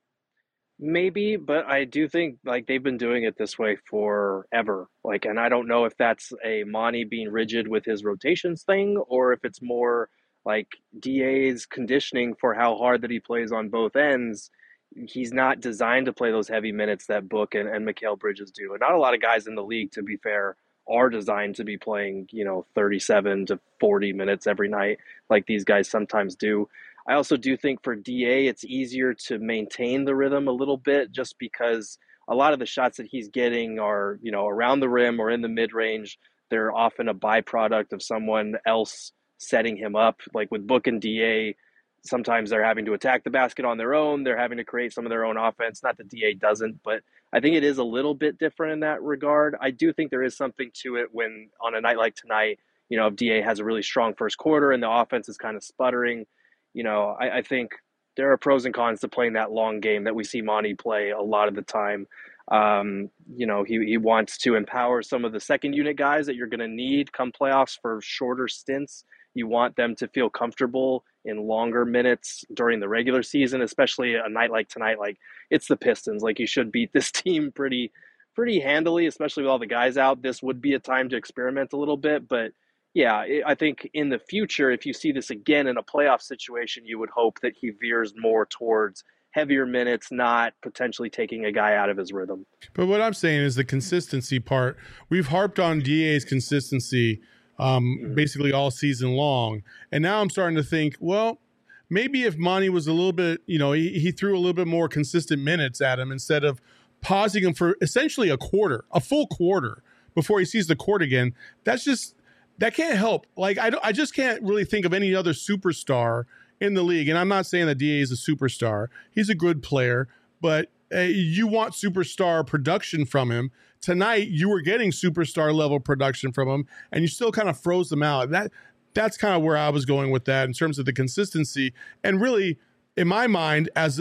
Maybe, but I do think like they've been doing it this way forever. Like, and I don't know if that's a Monty being rigid with his rotations thing or if it's more like DA's conditioning for how hard that he plays on both ends. He's not designed to play those heavy minutes that Book and Mikal Bridges do. And not a lot of guys in the league, to be fair, are designed to be playing, 37 to 40 minutes every night like these guys sometimes do. I also do think for DA, it's easier to maintain the rhythm a little bit just because a lot of the shots that he's getting are, around the rim or in the mid range. They're often a byproduct of someone else setting him up. Like with Book and DA, sometimes they're having to attack the basket on their own. They're having to create some of their own offense. Not that DA doesn't, but I think it is a little bit different in that regard. I do think there is something to it when on a night like tonight, if DA has a really strong first quarter and the offense is kind of sputtering, I think there are pros and cons to playing that long game that we see Monty play a lot of the time. He wants to empower some of the second unit guys that you're going to need come playoffs for shorter stints. You want them to feel comfortable in longer minutes during the regular season, especially a night like tonight. Like, it's the Pistons. Like, you should beat this team pretty handily, especially with all the guys out. This would be a time to experiment a little bit, but yeah, I think in the future, if you see this again in a playoff situation, you would hope that he veers more towards heavier minutes, not potentially taking a guy out of his rhythm. But what I'm saying is the consistency part. We've harped on DA's consistency basically all season long. And now I'm starting to think, well, maybe if Monty was a little bit, he threw a little bit more consistent minutes at him instead of pausing him for essentially a full quarter before he sees the court again. That can't help. Like, I just can't really think of any other superstar in the league. And I'm not saying that DA is a superstar. He's a good player, but you want superstar production from him. Tonight, you were getting superstar level production from him, and you still kind of froze them out. That's kind of where I was going with that in terms of the consistency. And really, in my mind, and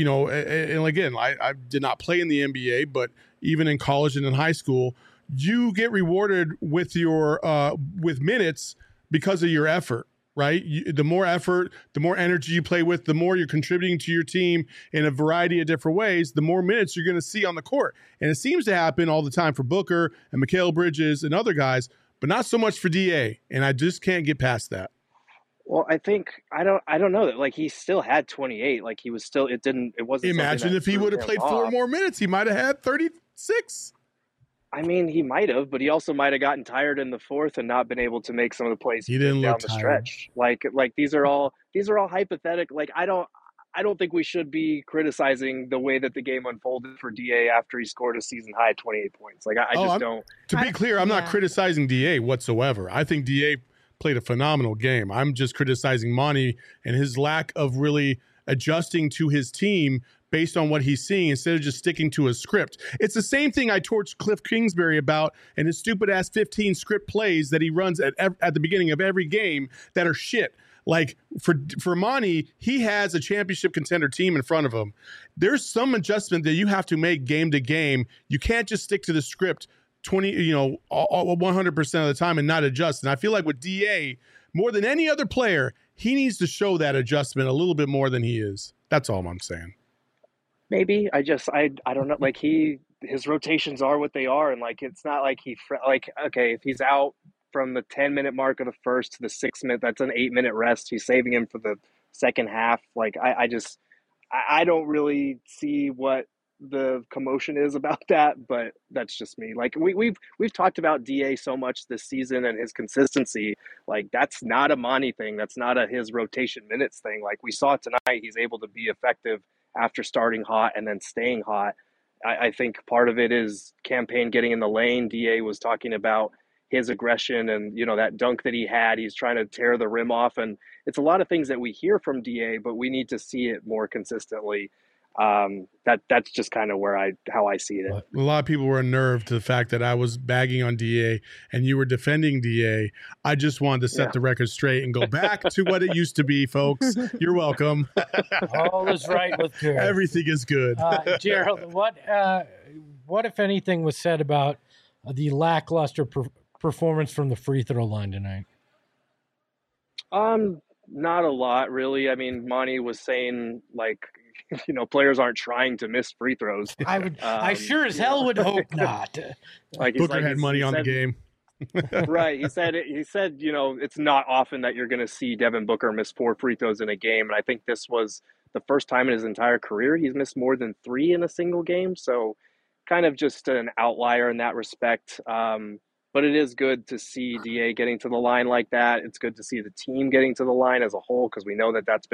again, I did not play in the NBA, but even in college and in high school, you get rewarded with your with minutes because of your effort, right? The more effort, the more energy you play with, the more you're contributing to your team in a variety of different ways, the more minutes you're going to see on the court. And it seems to happen all the time for Booker and Mikal Bridges and other guys, but not so much for DA. And I just can't get past that. Well, I think I don't know that. Like, he still had 28. Like, he was still. It wasn't. Imagine if he would have played 4 more minutes, he might have had 36. I mean, he might have, but he also might have gotten tired in the fourth and not been able to make some of the plays he didn't down the stretch. Like these are all hypothetical. Like, I don't think we should be criticizing the way that the game unfolded for DA after he scored a season high 28 points. Like, I just don't. To be clear, I'm not criticizing DA whatsoever. I think DA played a phenomenal game. I'm just criticizing Monty and his lack of really adjusting to his team based on what he's seeing instead of just sticking to a script. It's the same thing I torched Cliff Kingsbury about and his stupid-ass 15 script plays that he runs at the beginning of every game that are shit. Like, for Monty, he has a championship contender team in front of him. There's some adjustment that you have to make game to game. You can't just stick to the script 100% of the time and not adjust. And I feel like with DA, more than any other player, he needs to show that adjustment a little bit more than he is. That's all I'm saying. Maybe I don't know. Like, his rotations are what they are, and like, it's not like okay, if he's out from the 10-minute mark of the first to the 6-minute, that's an 8-minute rest. He's saving him for the second half. Like, I don't really see what the commotion is about that, but that's just me. Like, we've talked about DA so much this season and his consistency. Like, that's not a Monty thing. That's not his rotation minutes thing. Like, we saw tonight, he's able to be effective after starting hot and then staying hot. I think part of it is campaign getting in the lane. DA was talking about his aggression and, that dunk that he had. He's trying to tear the rim off. And it's a lot of things that we hear from DA, but we need to see it more consistently. That's just kind of how I see it. A lot of people were unnerved to the fact that I was bagging on DA and you were defending DA. I just wanted to set the record straight and go back to what it used to be, folks. You're welcome. All is right with Gerald. Everything is good. Gerald, what if anything was said about the lackluster performance from the free throw line tonight? Not a lot, really. I mean, Monty was saying, like, players aren't trying to miss free throws. I sure as hell would hope not. Like, Booker had money on the game. Right. He said, it's not often that you're going to see Devin Booker miss 4 free throws in a game. And I think this was the first time in his entire career he's missed more than 3 in a single game. So kind of just an outlier in that respect. But it is good to see DA getting to the line like that. It's good to see the team getting to the line as a whole, because we know that that's been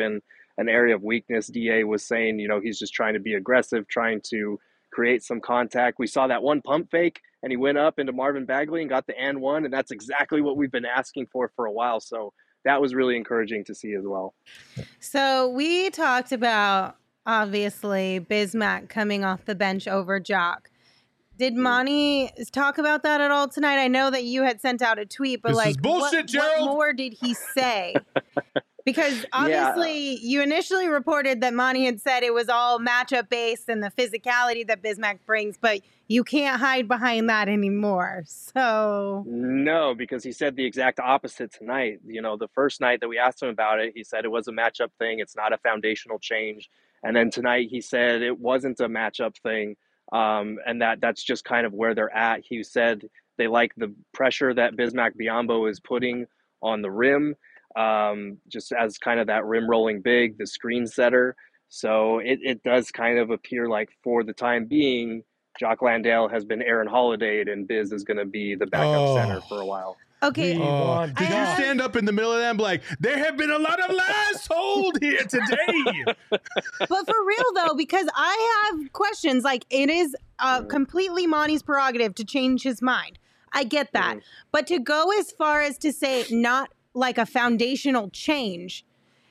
an area of weakness. DA was saying, he's just trying to be aggressive, trying to create some contact. We saw that one pump fake, and he went up into Marvin Bagley and got the and one, and that's exactly what we've been asking for a while. So that was really encouraging to see as well. So we talked about, obviously, Bismack coming off the bench over Jock. Did Monty talk about that at all tonight? I know that you had sent out a tweet, but This is bullshit, Gerald. what more did he say? Because obviously you initially reported that Monty had said it was all matchup based and the physicality that Bismack brings, but you can't hide behind that anymore. So no, because he said the exact opposite tonight. The first night that we asked him about it, he said it was a matchup thing. It's not a foundational change. And then tonight he said it wasn't a matchup thing. And that's just kind of where they're at. He said they like the pressure that Bismack Biyombo is putting on the rim. Just as kind of that rim rolling big, the screen setter. So it does kind of appear like for the time being, Jock Landale has been Aaron Holiday'd and Biz is going to be the backup center for a while. Okay. Did you stand up in the middle of them like, there have been a lot of lies told here today? But for real, though, because I have questions, like it is completely Monty's prerogative to change his mind. I get that. But to go as far as to say not like a foundational change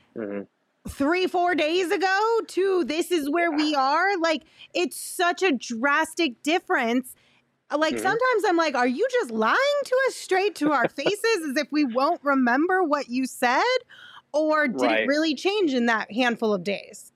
3-4 days ago to this is where we are, like it's such a drastic difference. Like sometimes I'm like, are you just lying to us straight to our faces as if we won't remember what you said? Or did it really change in that handful of days?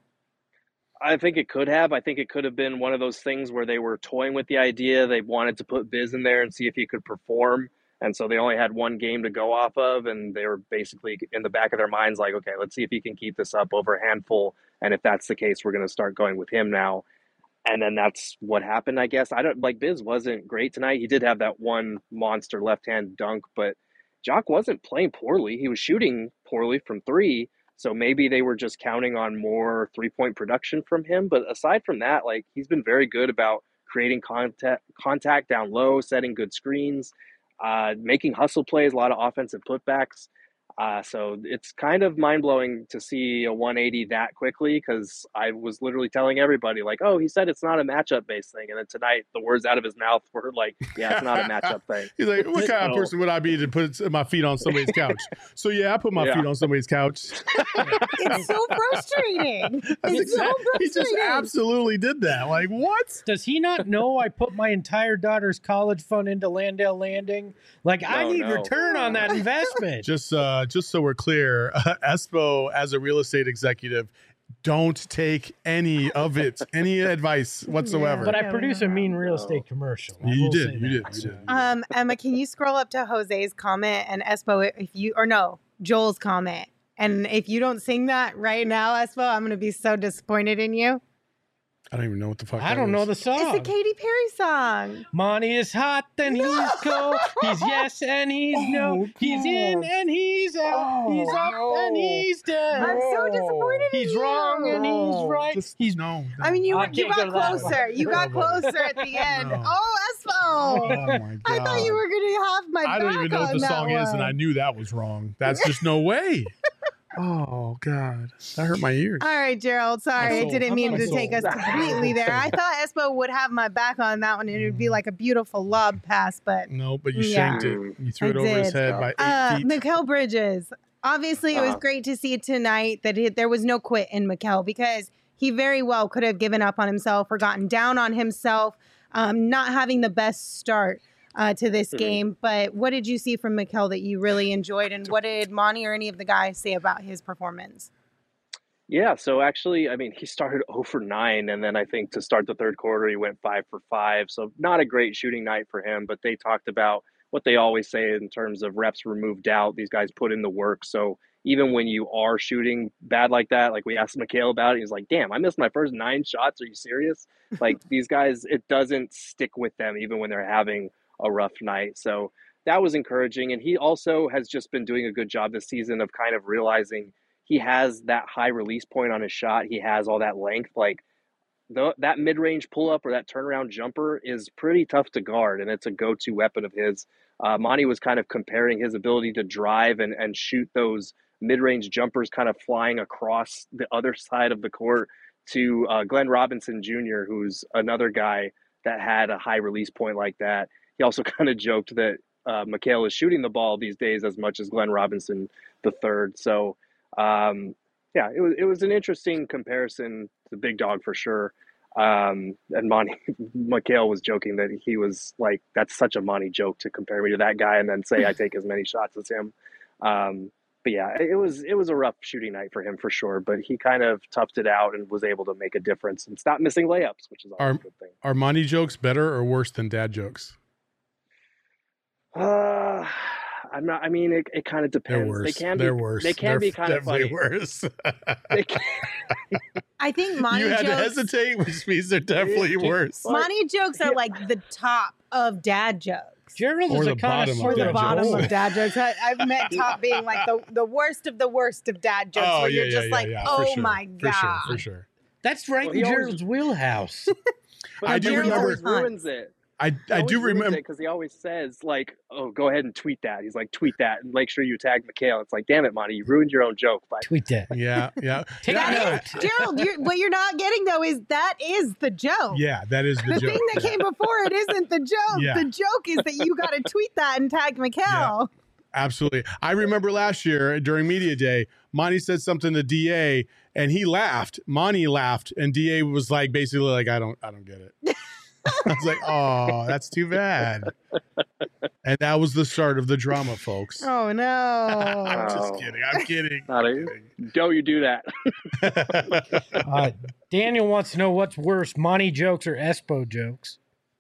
I think it could have. I think it could have been one of those things where they were toying with the idea. They wanted to put Biz in there and see if he could perform. And so they only had one game to go off of, and they were basically in the back of their minds like, okay, let's see if he can keep this up over a handful. And if that's the case, we're going to start going with him now. And then that's what happened, I guess. Biz wasn't great tonight. He did have that one monster left-hand dunk, but Jock wasn't playing poorly. He was shooting poorly from three. So maybe they were just counting on more three-point production from him. But aside from that, like he's been very good about creating contact down low, setting good screens, making hustle plays, a lot of offensive putbacks. So it's kind of mind-blowing to see a 180 that quickly, because I was literally telling everybody like, oh, he said it's not a matchup-based thing. And then tonight the words out of his mouth were like, yeah, it's not a matchup thing. He's like, what kind of person would I be to put my feet on somebody's couch? So yeah, I put my feet on somebody's couch. It's so frustrating. It's so frustrating. He just absolutely did that. Like, what? Does he not know I put my entire daughter's college fund into Landale Landing? Like, I need return on that investment. Just so we're clear, Espo, as a real estate executive, don't take any of it, any advice whatsoever. But I produce a mean real estate commercial. You did. Emma, can you scroll up to Jose's comment and Espo, Joel's comment? And if you don't sing that right now, Espo, I'm going to be so disappointed in you. I don't even know what the fuck I don't know the song. It's a Katy Perry song. Monty is hot and he's cold. He's yes and he's no. He's in and he's out. He's up and he's down. I'm so disappointed in you. He's wrong and he's right. He's no. I mean, you got closer. You got closer at the end. No. Oh, Espo. Oh my God. I thought you were going to have my back I don't even know what the song is, and I one. knew that was wrong. That's just no way. Oh, God. That hurt my ears. All right, Gerald. Sorry, I didn't mean to take us completely there. I thought Espo would have my back on that one, and it would be like a beautiful lob pass, but... No, but you shanked it. You threw it over his head by 8 feet. Mikal Bridges. Obviously, it was great to see tonight that there was no quit in Mikal, because he very well could have given up on himself or gotten down on himself, not having the best start to this game. But what did you see from Mikal that you really enjoyed, and what did Monty or any of the guys say about his performance? Yeah, so actually, I mean, he started 0 for 9, and then I think to start the third quarter, he went 5 for 5. So not a great shooting night for him, but they talked about what they always say in terms of reps removed doubt. These guys put in the work. So even when you are shooting bad like that, like we asked Mikal about it, he's like, damn, I missed my first 9 shots. Are you serious? Like these guys, it doesn't stick with them even when they're having a rough night. So that was encouraging. And he also has just been doing a good job this season of kind of realizing he has that high release point on his shot. He has all that length. Like that mid-range pull-up or that turnaround jumper is pretty tough to guard, and it's a go-to weapon of his. Monty was kind of comparing his ability to drive and shoot those mid-range jumpers kind of flying across the other side of the court to Glenn Robinson Jr., who's another guy that had a high release point like that. He also kind of joked that Mikhail is shooting the ball these days as much as Glenn Robinson III. So, yeah, it was an interesting comparison to the big dog for sure. And Mikhail was joking that he was like, that's such a Monty joke to compare me to that guy and then say I take as many shots as him. But yeah, it was a rough shooting night for him for sure, but he kind of toughed it out and was able to make a difference and stop missing layups, which is always a good thing. Are Monty jokes better or worse than dad jokes? I'm not. I mean, it kind of depends. They're worse. They're worse. They can be kind of funny. Worse. I think Monty you had jokes, to hesitate, which means they're definitely worse. Monty jokes are like the top of dad jokes. Gerald is a connoisseur or the bottom of dad jokes. I've met top being like the worst of dad jokes, where you're just oh sure. my god, for sure. That's right in Gerald's wheelhouse. But I do remember. Always ruins it. I do remember because he always says like, "Oh, go ahead and tweet that." He's like, "Tweet that and make sure you tag Mikhail." It's like, damn it, Monty, you ruined your own joke. By tweet that. Yeah. Take that is, Gerald. What you're not getting though is that is the joke. Yeah, that is the joke. The thing that came before it isn't the joke. Yeah. The joke is that you got to tweet that and tag Mikhail. Yeah, absolutely. I remember last year during Media Day, Monty said something to DA and he laughed. Monty laughed and DA was like, basically like, I don't get it. I was like, oh, that's too bad. And that was the start of the drama, folks. Oh, no. I'm just kidding. I'm kidding. Don't you do that. Daniel wants to know what's worse, Monty jokes or Espo jokes?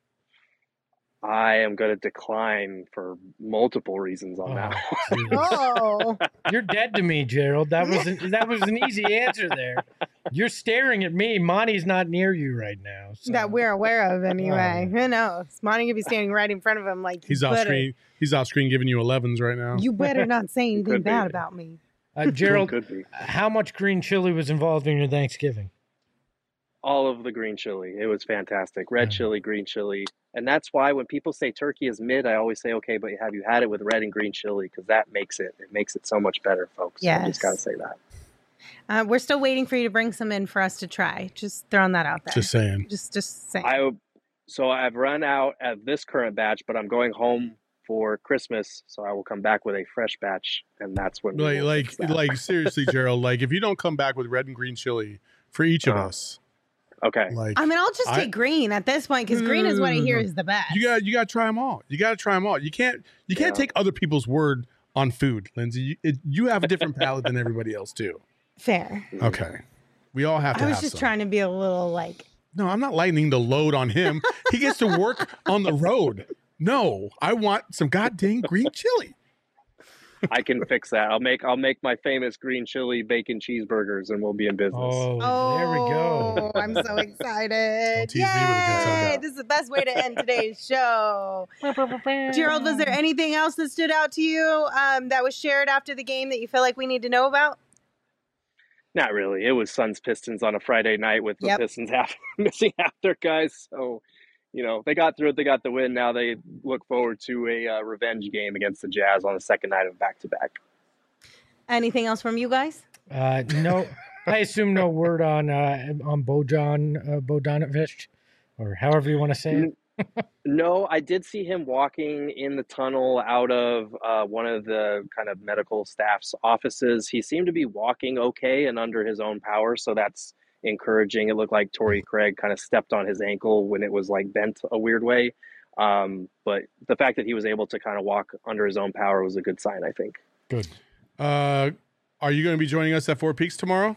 I am going to decline for multiple reasons on that one. Oh, you're dead to me, Gerald. That was an easy answer there. You're staring at me. Monty's not near you right now. So. That we're aware of, anyway. Who knows? Monty could be standing right in front of him, like he's off screen. He's off screen giving you 11s right now. You better not say anything bad about me, Gerald. How much green chili was involved in your Thanksgiving? All of the green chili. It was fantastic. Red chili, green chili. And that's why when people say turkey is mid, I always say, okay, but have you had it with red and green chili? Because that makes it so much better, folks. Yes. I just got to say that. We're still waiting for you to bring some in for us to try. Just throwing that out there. Just saying. Just saying. So I've run out at this current batch, but I'm going home for Christmas, so I will come back with a fresh batch, and that's when like seriously, Gerald. Like if you don't come back with red and green chili for each of us. Okay. I mean, I'll just take green at this point because green is what I hear is the best. You got to try them all. You got to try them all. You can't take other people's word on food, Lindsay. You have a different palate than everybody else too. Fair. Okay. We all have to. I was just trying to be a little like. No, I'm not lightening the load on him. He gets to work on the road. No, I want some goddamn green chili. I can fix that. I'll make my famous green chili bacon cheeseburgers, and we'll be in business. Oh, there we go. I'm so excited! Tease me with a good time. This is the best way to end today's show. Gerald, was there anything else that stood out to you that was shared after the game that you feel like we need to know about? Not really. It was Suns Pistons on a Friday night with the Pistons missing half their guys. So, they got through it. They got the win. Now they look forward to a revenge game against the Jazz on the second night of back-to-back. Anything else from you guys? No. I assume no word on Bogdanovic, or however you want to say it. No, I did see him walking in the tunnel out of one of the kind of medical staff's offices. He seemed to be walking okay and under his own power, so that's encouraging. It looked like Torrey Craig kind of stepped on his ankle when it was like bent a weird way. But the fact that he was able to kind of walk under his own power was a good sign, I think. Good. Are you going to be joining us at Four Peaks tomorrow?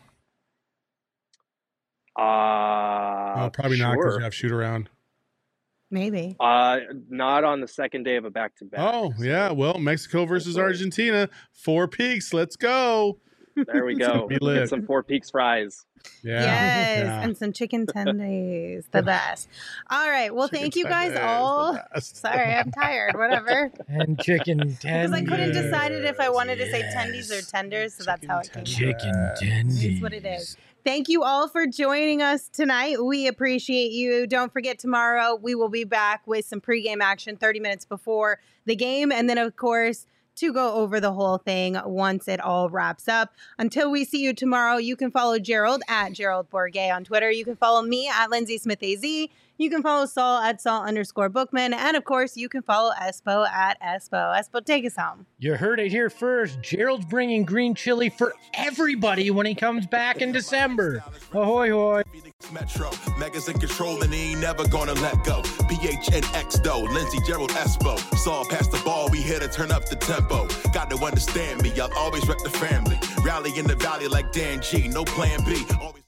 Probably not because you have shoot around. Maybe. Not on the second day of a back-to-back. Oh, yeah. Well, Mexico versus Argentina. Four Peaks. Let's go. There we go. Get some Four Peaks fries. Yeah. Yes, yeah. and some chicken tendies. The best. All right. Well, thank you guys all. Sorry, I'm tired. Whatever. And chicken tendies. Because I couldn't decide if I wanted to say tendies or tenders, so that's how it came. Chicken tendies. That's what it is. Thank you all for joining us tonight. We appreciate you. Don't forget, tomorrow we will be back with some pregame action 30 minutes before the game. And then, of course, to go over the whole thing once it all wraps up. Until we see you tomorrow, you can follow Gerald at Gerald Bourget on Twitter. You can follow me at Lindsay Smith AZ. You can follow Saul at Saul_Bookman. And of course, you can follow Espo at Espo. Espo, take us home. You heard it here first. Gerald's bringing green chili for everybody when he comes back in December. Ahoy, hoy. Metro, Megas in control and he ain't never gonna let go. PHNX though, Lindsay, Gerald, Espo. Saw past the ball, we here to turn up the tempo. Got to understand me, I'll always rep the family. Rally in the valley like Dan G, no plan B. Always